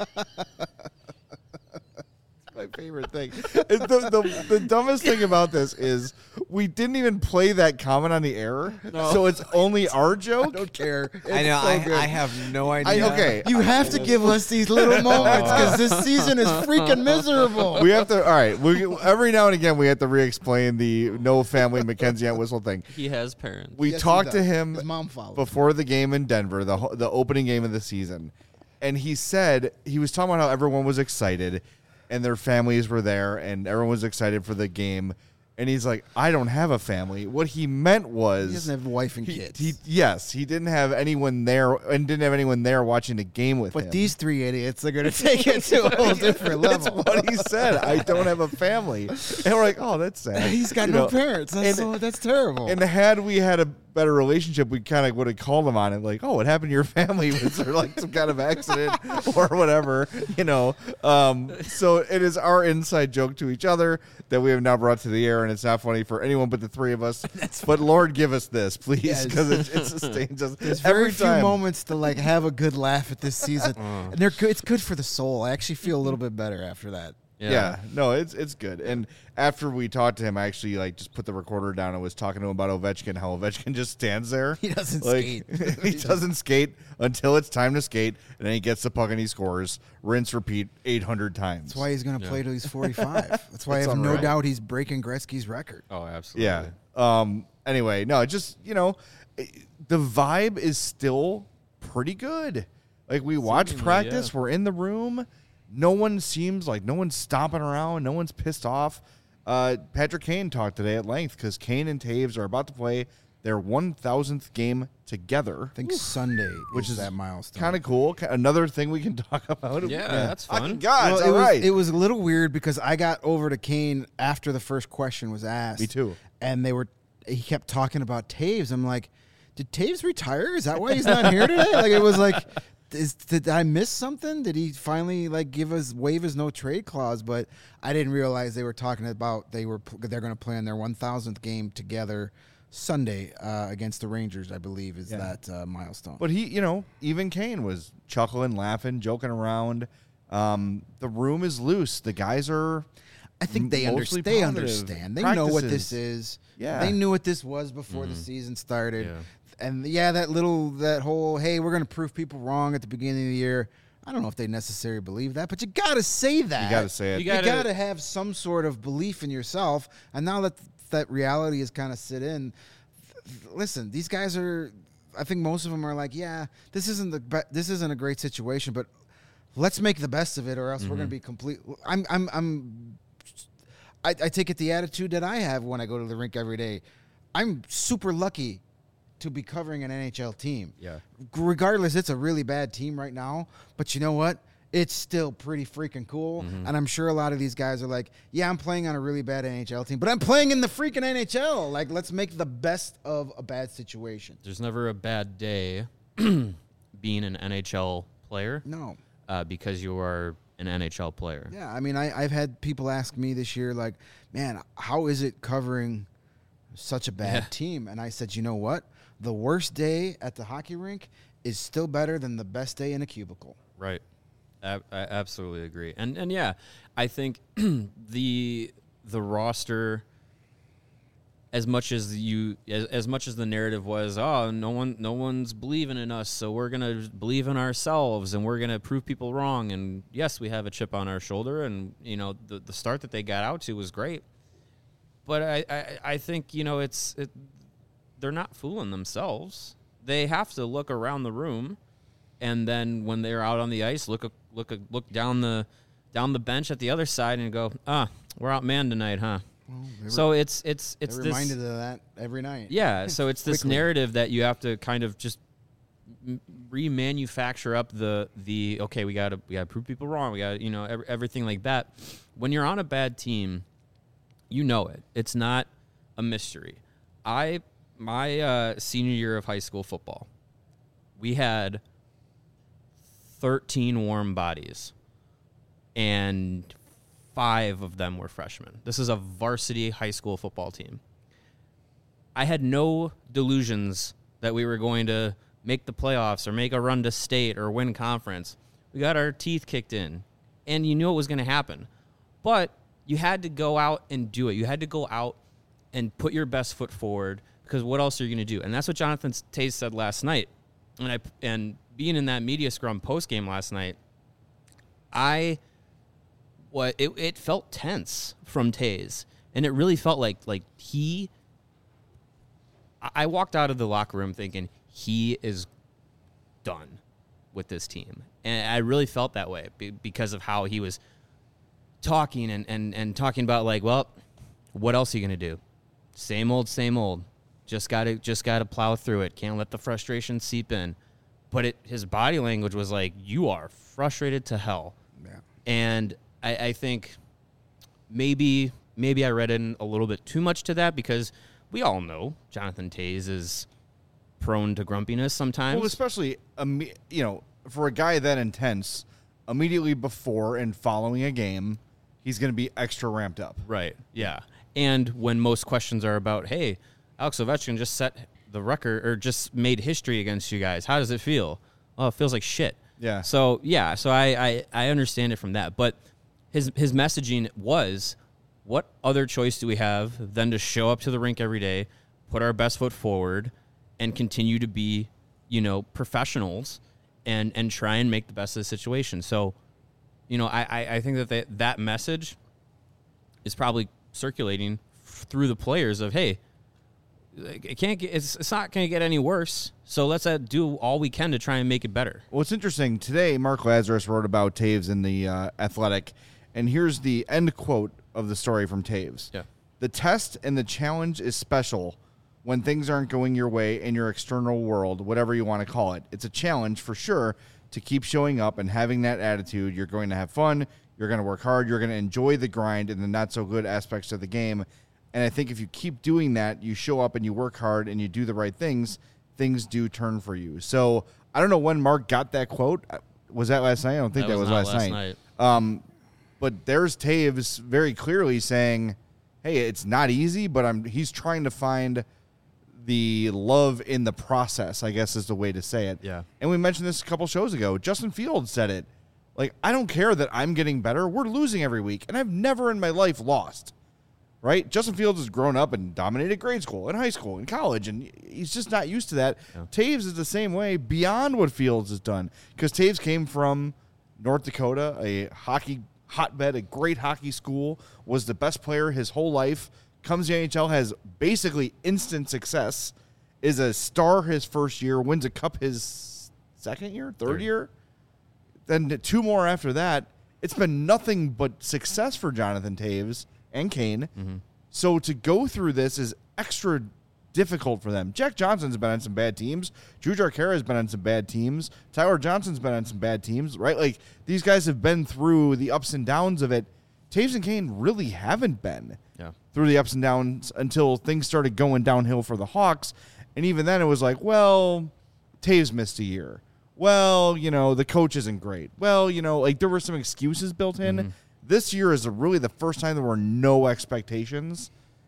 My favorite thing. The dumbest thing about this is we didn't even play that comment on the air, so it's only our joke. I don't care. I know. I have no idea. Okay, You have to give us these little moments because this season is freaking miserable. we have to. All right, every now and again we have to re-explain the no family Mackenzie at Whistle thing. He has parents. We Yes, he talked to does. him His mom followed. before the game in Denver, the opening game of the season, and he said he was talking about how everyone was excited and their families were there and everyone was excited for the game. And he's like, I don't have a family. What he meant was He doesn't have a wife and kids. He didn't have anyone there and didn't have anyone there watching the game with him. But these three idiots are going to take it to a whole different That's level. what he said. I don't have a family. And we're like, oh, that's sad. He's got You no know, parents. That's terrible. And had we had a better relationship, we kind of would have called him on it, like, oh, what happened to your family? Was there like some kind of accident or whatever, So it is our inside joke to each other that we have now brought to the air, and it's not funny for anyone but the three of us. But Lord, give us this, please, because it sustains us. There's every very few time. moments to like have a good laugh at this season, and they're good. It's good for the soul. I actually feel a little bit better after that. Yeah, no, it's good. And after we talked to him, I actually just put the recorder down and was talking to him about Ovechkin, how Ovechkin just stands there. He doesn't skate. He doesn't skate until it's time to skate, and then he gets the puck and he scores. Rinse, repeat 800 times. That's why he's going to play till he's 45. That's why I have no unreal. doubt he's breaking Gretzky's record. Oh, absolutely. Yeah. Anyway, no, just, the vibe is still pretty good. Like, we watch Seemingly, practice, yeah. we're in the room. No one seems like no one's stomping around. No one's pissed off. Patrick Kane talked today at length because Kane and Taves are about to play their 1,000th game together. I think Sunday, Which is that milestone. Kind of cool. Another thing we can talk about. Yeah, that's fun. Fucking God, it's Well, all right. it was a little weird because I got over to Kane after the first question was asked. Me too. And he kept talking about Taves. I'm like, did Taves retire? Is that why he's not here today? Like, it was like, did I miss something? Did he finally waive his no trade clause? But I didn't realize they were talking about they're going to play in their 1,000th game together Sunday against the Rangers. I believe is that milestone. But he, even Kane was chuckling, laughing, joking around. The room is loose. The guys are. I think they mostly understand. positive. They know what Practices. this is. Yeah. They knew what this was before the season started. Yeah. And that whole, hey, we're going to prove people wrong at the beginning of the year. I don't know if they necessarily believe that, but you got to say that. You got to say it. You You gotta- got to have some sort of belief in yourself. And now that reality has kind of sit in, listen, these guys are, I think most of them are like, yeah, this isn't a great situation, but let's make the best of it, or else we're going to be complete. I take it the attitude that I have when I go to the rink every day. I'm super lucky to be covering an NHL team. Yeah. Regardless, it's a really bad team right now, but you know what? It's still pretty freaking cool. And I'm sure a lot of these guys are like, yeah, I'm playing on a really bad NHL team, but I'm playing in the freaking NHL. Like, let's make the best of a bad situation. There's never a bad day being an NHL player No. because you are an NHL player. Yeah, I mean, I've had people ask me this year, like, man, how is it covering such a bad team? And I said, you know what? The worst day at the hockey rink is still better than the best day in a cubicle. Right. I absolutely agree. And yeah, I think the roster, as much as the narrative was, oh, no one's believing in us, so we're gonna believe in ourselves and we're gonna prove people wrong. And yes, we have a chip on our shoulder, and the start that they got out to was great. But I think they're not fooling themselves. They have to look around the room, and then when they're out on the ice, look down the bench at the other side and go, we're outmanned tonight, huh? So it's They're this reminded of that every night. yeah. So it's this Quickly. narrative that you have to kind of just remanufacture up the okay, we gotta prove people wrong. We got everything like that. When you're on a bad team, you know it. It's not a mystery. My senior year of high school football, we had 13 warm bodies and 5 of them were freshmen. This is a varsity high school football team. I had no delusions that we were going to make the playoffs or make a run to state or win conference. We got our teeth kicked in, and you knew it was going to happen. But you had to go out and do it. You had to go out and put your best foot forward, because what else are you going to do? And that's what Jonathan Toews said last night. And being in that media scrum post-game last night, it felt tense from Toews. And it really felt like I walked out of the locker room thinking he is done with this team. And I really felt that way because of how he was talking and talking about, like, well, what else are you going to do? Same old, same old. Just gotta plow through it. Can't let the frustration seep in. But his body language was like, you are frustrated to hell. Yeah. And I think maybe I read in a little bit too much to that, because we all know Jonathan Toews is prone to grumpiness sometimes. Well, especially, for a guy that intense, immediately before and following a game, he's going to be extra ramped up. Right, yeah. And when most questions are about, hey, Alex Ovechkin just set the record or just made history against you guys. How does it feel? Oh, it feels like shit. Yeah. So I understand it from that. But his messaging was, what other choice do we have than to show up to the rink every day, put our best foot forward, and continue to be, professionals and try and make the best of the situation. So, I think that message is probably circulating through the players of, hey, it's not going to get any worse, so let's do all we can to try and make it better. Well, it's interesting. Today, Mark Lazarus wrote about Toews in the Athletic, and here's the end quote of the story from Toews. Yeah. The test and the challenge is special when things aren't going your way in your external world, whatever you want to call it. It's a challenge for sure to keep showing up and having that attitude. You're going to have fun. You're going to work hard. You're going to enjoy the grind and the not-so-good aspects of the game. And I think if you keep doing that, you show up and you work hard and you do the right things do turn for you. So I don't know when Mark got that quote. Was that last night? I don't think that was last night. But there's Toews very clearly saying, hey, it's not easy, but he's trying to find the love in the process, I guess is the way to say it. Yeah. And we mentioned this a couple shows ago. Justin Fields said it. Like, I don't care that I'm getting better. We're losing every week, and I've never in my life lost. Right? Justin Fields has grown up and dominated grade school and high school and college, and he's just not used to that. Yeah. Toews is the same way beyond what Fields has done, because Toews came from North Dakota, a hockey hotbed, a great hockey school, was the best player his whole life, comes to the NHL, has basically instant success, is a star his first year, wins a cup his third year. Then 2 more after that. It's been nothing but success for Jonathan Toews and Kane. Mm-hmm. So to go through this is extra difficult for them. Jack Johnson's been on some bad teams. Drew Jarkera has been on some bad teams. Tyler Johnson's been on some bad teams, right? Like, these guys have been through the ups and downs of it. Toews and Kane really haven't been through the ups and downs until things started going downhill for the Hawks. And even then it was like, well, Toews missed a year. Well, the coach isn't great. Well, like, there were some excuses built in. Mm-hmm. This year is really the first time there were no expectations,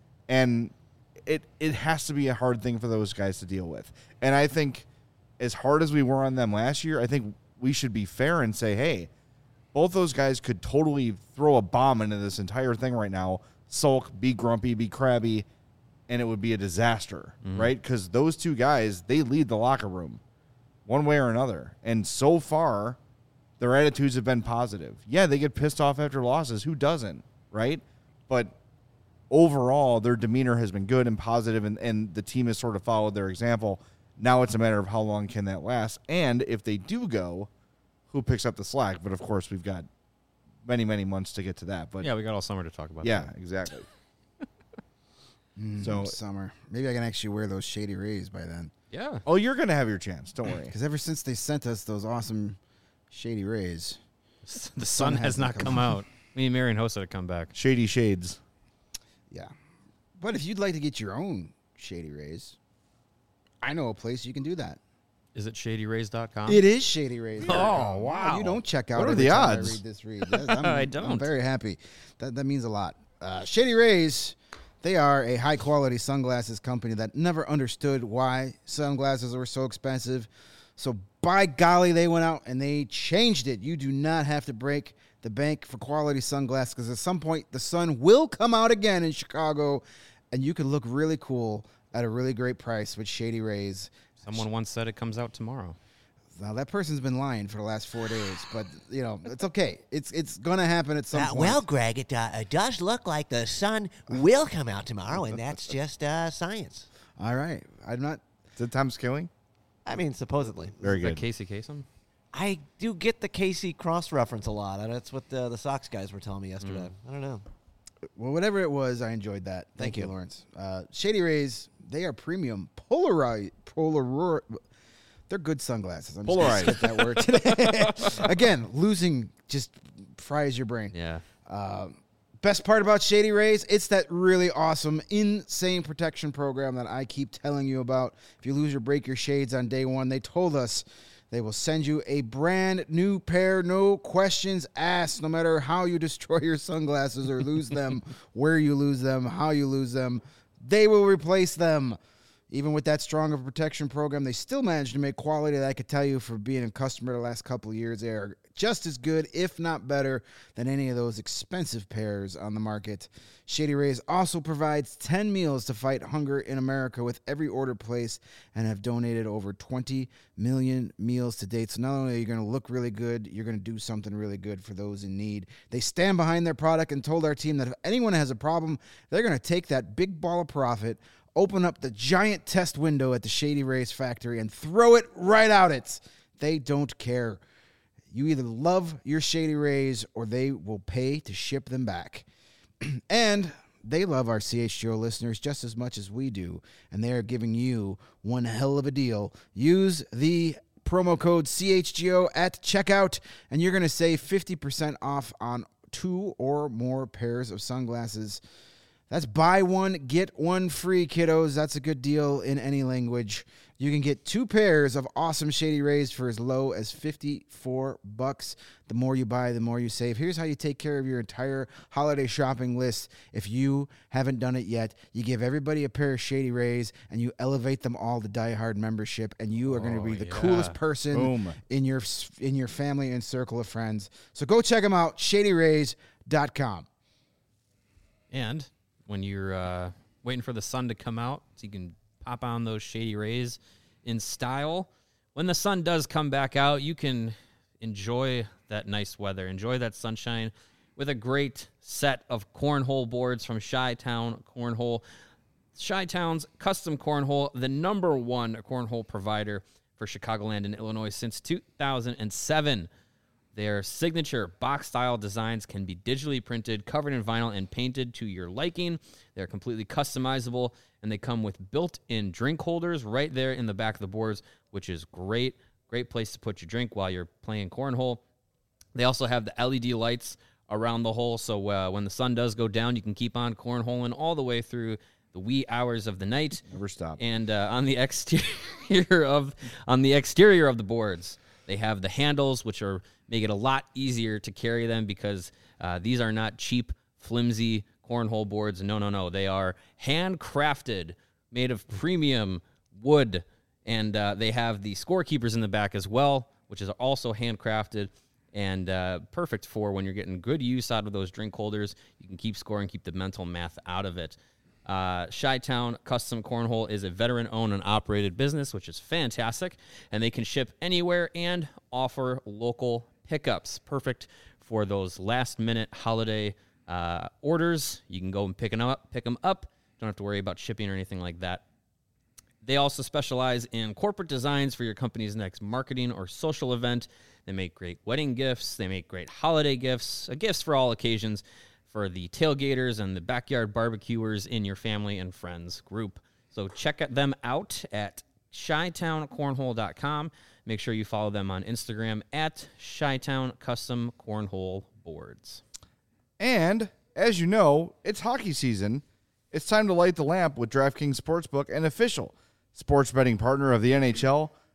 and it has to be a hard thing for those guys to deal with. And I think as hard as we were on them last year, I think we should be fair and say, hey, both those guys could totally throw a bomb into this entire thing right now, sulk, be grumpy, be crabby, and it would be a disaster, right? Because those two guys, they lead the locker room one way or another. And so far, their attitudes have been positive. Yeah, they get pissed off after losses. Who doesn't, right? But overall, their demeanor has been good and positive, and the team has sort of followed their example. Now it's a matter of how long can that last. And if they do go, who picks up the slack? But, of course, we've got many, many months to get to that. But yeah, we got all summer to talk about that. Yeah, exactly. So summer. Maybe I can actually wear those Shady Rays by then. Yeah. Oh, you're going to have your chance. Don't worry. Because ever since they sent us those awesome Shady Rays, the sun has not come out. Me and Marion Hossa to come back. Shady Shades. Yeah. But if you'd like to get your own Shady Rays, I know a place you can do that. Is it ShadyRays.com? It is Shady Rays. Oh, wow. You don't check out What are every the time odds? I read this read. Yes, I don't. I'm very happy. That means a lot. Shady Rays, they are a high-quality sunglasses company that never understood why sunglasses were so expensive. So by golly, they went out and they changed it. You do not have to break the bank for quality sunglasses because at some point the sun will come out again in Chicago, and you can look really cool at a really great price with Shady Rays. Someone once said it comes out tomorrow. Now, that person's been lying for the last 4 days, but, it's okay. It's going to happen at some point. Well, Greg, it does look like the sun will come out tomorrow, and that's just science. All right. I'm not. Is it Tom Skilling? I mean, supposedly. Very Is that good. Casey Kasem? I do get the Casey cross reference a lot. That's what the Sox guys were telling me yesterday. I don't know. Well, whatever it was, I enjoyed that. Thank you. Lawrence. Shady Rays, they are premium Polaroid. They're good sunglasses. I'm just gonna skip that word today. Again, losing just fries your brain. Yeah. Best part about Shady Rays, it's that really awesome, insane protection program that I keep telling you about. If you lose or break your shades on day one, they told us they will send you a brand new pair, no questions asked, no matter how you destroy your sunglasses or lose them, where you lose them, how you lose them. They will replace them. Even with that strong of a protection program, they still managed to make quality that I could tell you for being a customer the last couple of years. They are just as good, if not better, than any of those expensive pairs on the market. Shady Rays also provides 10 meals to fight hunger in America with every order placed and have donated over 20 million meals to date. So not only are you going to look really good, you're going to do something really good for those in need. They stand behind their product and told our team that if anyone has a problem, they're going to take that big ball of profit, open up the giant test window at the Shady Rays factory, and throw it right out it. They don't care. You either love your Shady Rays or they will pay to ship them back. And they love our CHGO listeners just as much as we do, and they are giving you one hell of a deal. Use the promo code CHGO at checkout, and you're going to save 50% off on 2 or more pairs of sunglasses. That's buy one, get one free, kiddos. That's a good deal in any language. You can get 2 pairs of awesome Shady Rays for as low as $54. The more you buy, the more you save. Here's how you take care of your entire holiday shopping list. If you haven't done it yet, you give everybody a pair of Shady Rays, and you elevate them all to Die Hard membership, and you are going to be the coolest person in your family and circle of friends. So go check them out, ShadyRays.com. And when you're waiting for the sun to come out so you can pop on those Shady Rays in style, when the sun does come back out, you can enjoy that nice weather, enjoy that sunshine with a great set of cornhole boards from Chi-Town Cornhole. Chi-Town's Custom Cornhole, the #1 cornhole provider for Chicagoland and Illinois since 2007. Their signature box-style designs can be digitally printed, covered in vinyl, and painted to your liking. They're completely customizable, and they come with built-in drink holders right there in the back of the boards, which is great. Great place to put your drink while you're playing cornhole. They also have the LED lights around the hole, so when the sun does go down, you can keep on cornholing all the way through the wee hours of the night. Never stop. And on the exterior of the boards, they have the handles, which make it a lot easier to carry them because these are not cheap, flimsy cornhole boards. No. They are handcrafted, made of premium wood, and they have the scorekeepers in the back as well, which is also handcrafted and perfect for when you're getting good use out of those drink holders. You can keep score and keep the mental math out of it. Chi-Town Custom Cornhole is a veteran-owned and operated business, which is fantastic, and they can ship anywhere and offer local pickups. Perfect for those last-minute holiday orders. You can go and pick them up. Don't have to worry about shipping or anything like that. They also specialize in corporate designs for your company's next marketing or social event. They make great wedding gifts. They make great holiday gifts, gifts for all occasions, for the tailgaters and the backyard barbecuers in your family and friends group. So check them out at ChiTownCornhole.com. Make sure you follow them on Instagram at Chi-Town Custom Cornhole Boards. And, as you know, it's hockey season. It's time to light the lamp with DraftKings Sportsbook, an official sports betting partner of the NHL.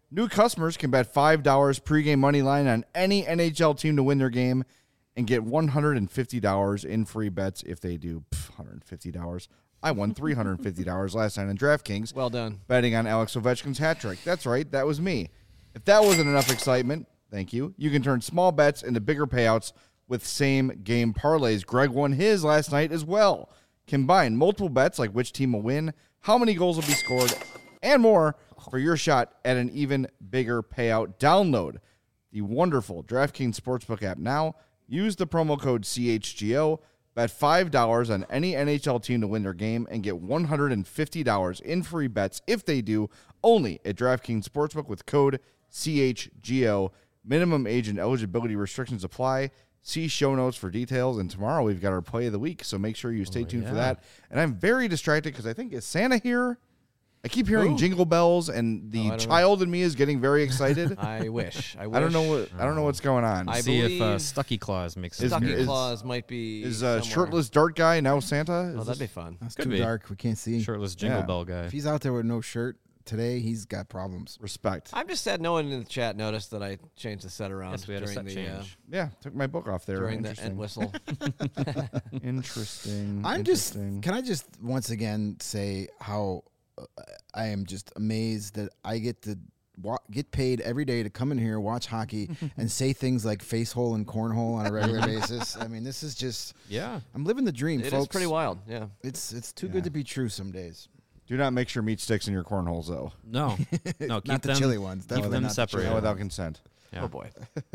New customers can bet $5 pregame money line on any NHL team to win their game and get $150 in free bets if they do. $150. I won $350 last night on DraftKings. Well done. Betting on Alex Ovechkin's hat trick. That's right. That was me. If that wasn't enough excitement, thank you. You can turn small bets into bigger payouts with same game parlays. Greg won his last night as well. Combine multiple bets like which team will win, how many goals will be scored, and more for your shot at an even bigger payout. Download the wonderful DraftKings Sportsbook app now. Use the promo code CHGO. Bet $5 on any NHL team to win their game and get $150 in free bets if they do, only at DraftKings Sportsbook with code CHGO. Minimum age and eligibility restrictions apply. See show notes for details. And tomorrow we've got our play of the week, so make sure you stay tuned for that. And I'm very distracted because I think, is Santa here? I keep hearing jingle bells, and the child in me is getting very excited. I wish. I don't know what's going on. I see if Stucky Claus makes it. Stucky Claus might be. Is shirtless dart guy now Santa? Oh, that'd be fun. That's too dark. We can't see. Shirtless jingle bell guy. If he's out there with no shirt today, he's got problems. Respect. I'm just sad no one in the chat noticed that I changed the set around. Yes, we had a set change. Took my book off there. During the end whistle. Interesting. Can I just once again say how I am just amazed that I get to get paid every day to come in here, watch hockey, and say things like face hole and cornhole on a regular basis. I mean, this is just I'm living the dream, folks. It's pretty wild. Yeah, it's too good to be true some days. Do not mix your meat sticks in your cornholes, though. No, keep not the chili ones. Definitely them not separate without consent. Yeah. Oh boy.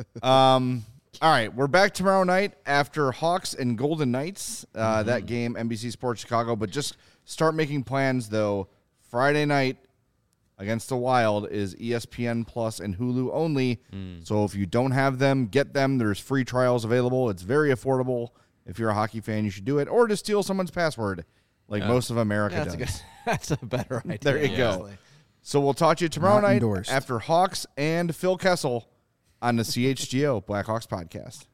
All right, we're back tomorrow night after Hawks and Golden Knights. That game, NBC Sports Chicago. But just start making plans, though. Friday night against the Wild is ESPN Plus and Hulu only. So if you don't have them, get them. There's free trials available. It's very affordable. If you're a hockey fan, you should do it. Or just steal someone's password, like most of America does. That's a better idea. There you go. So we'll talk to you tomorrow night after Hawks and Phil Kessel on the CHGO Blackhawks podcast.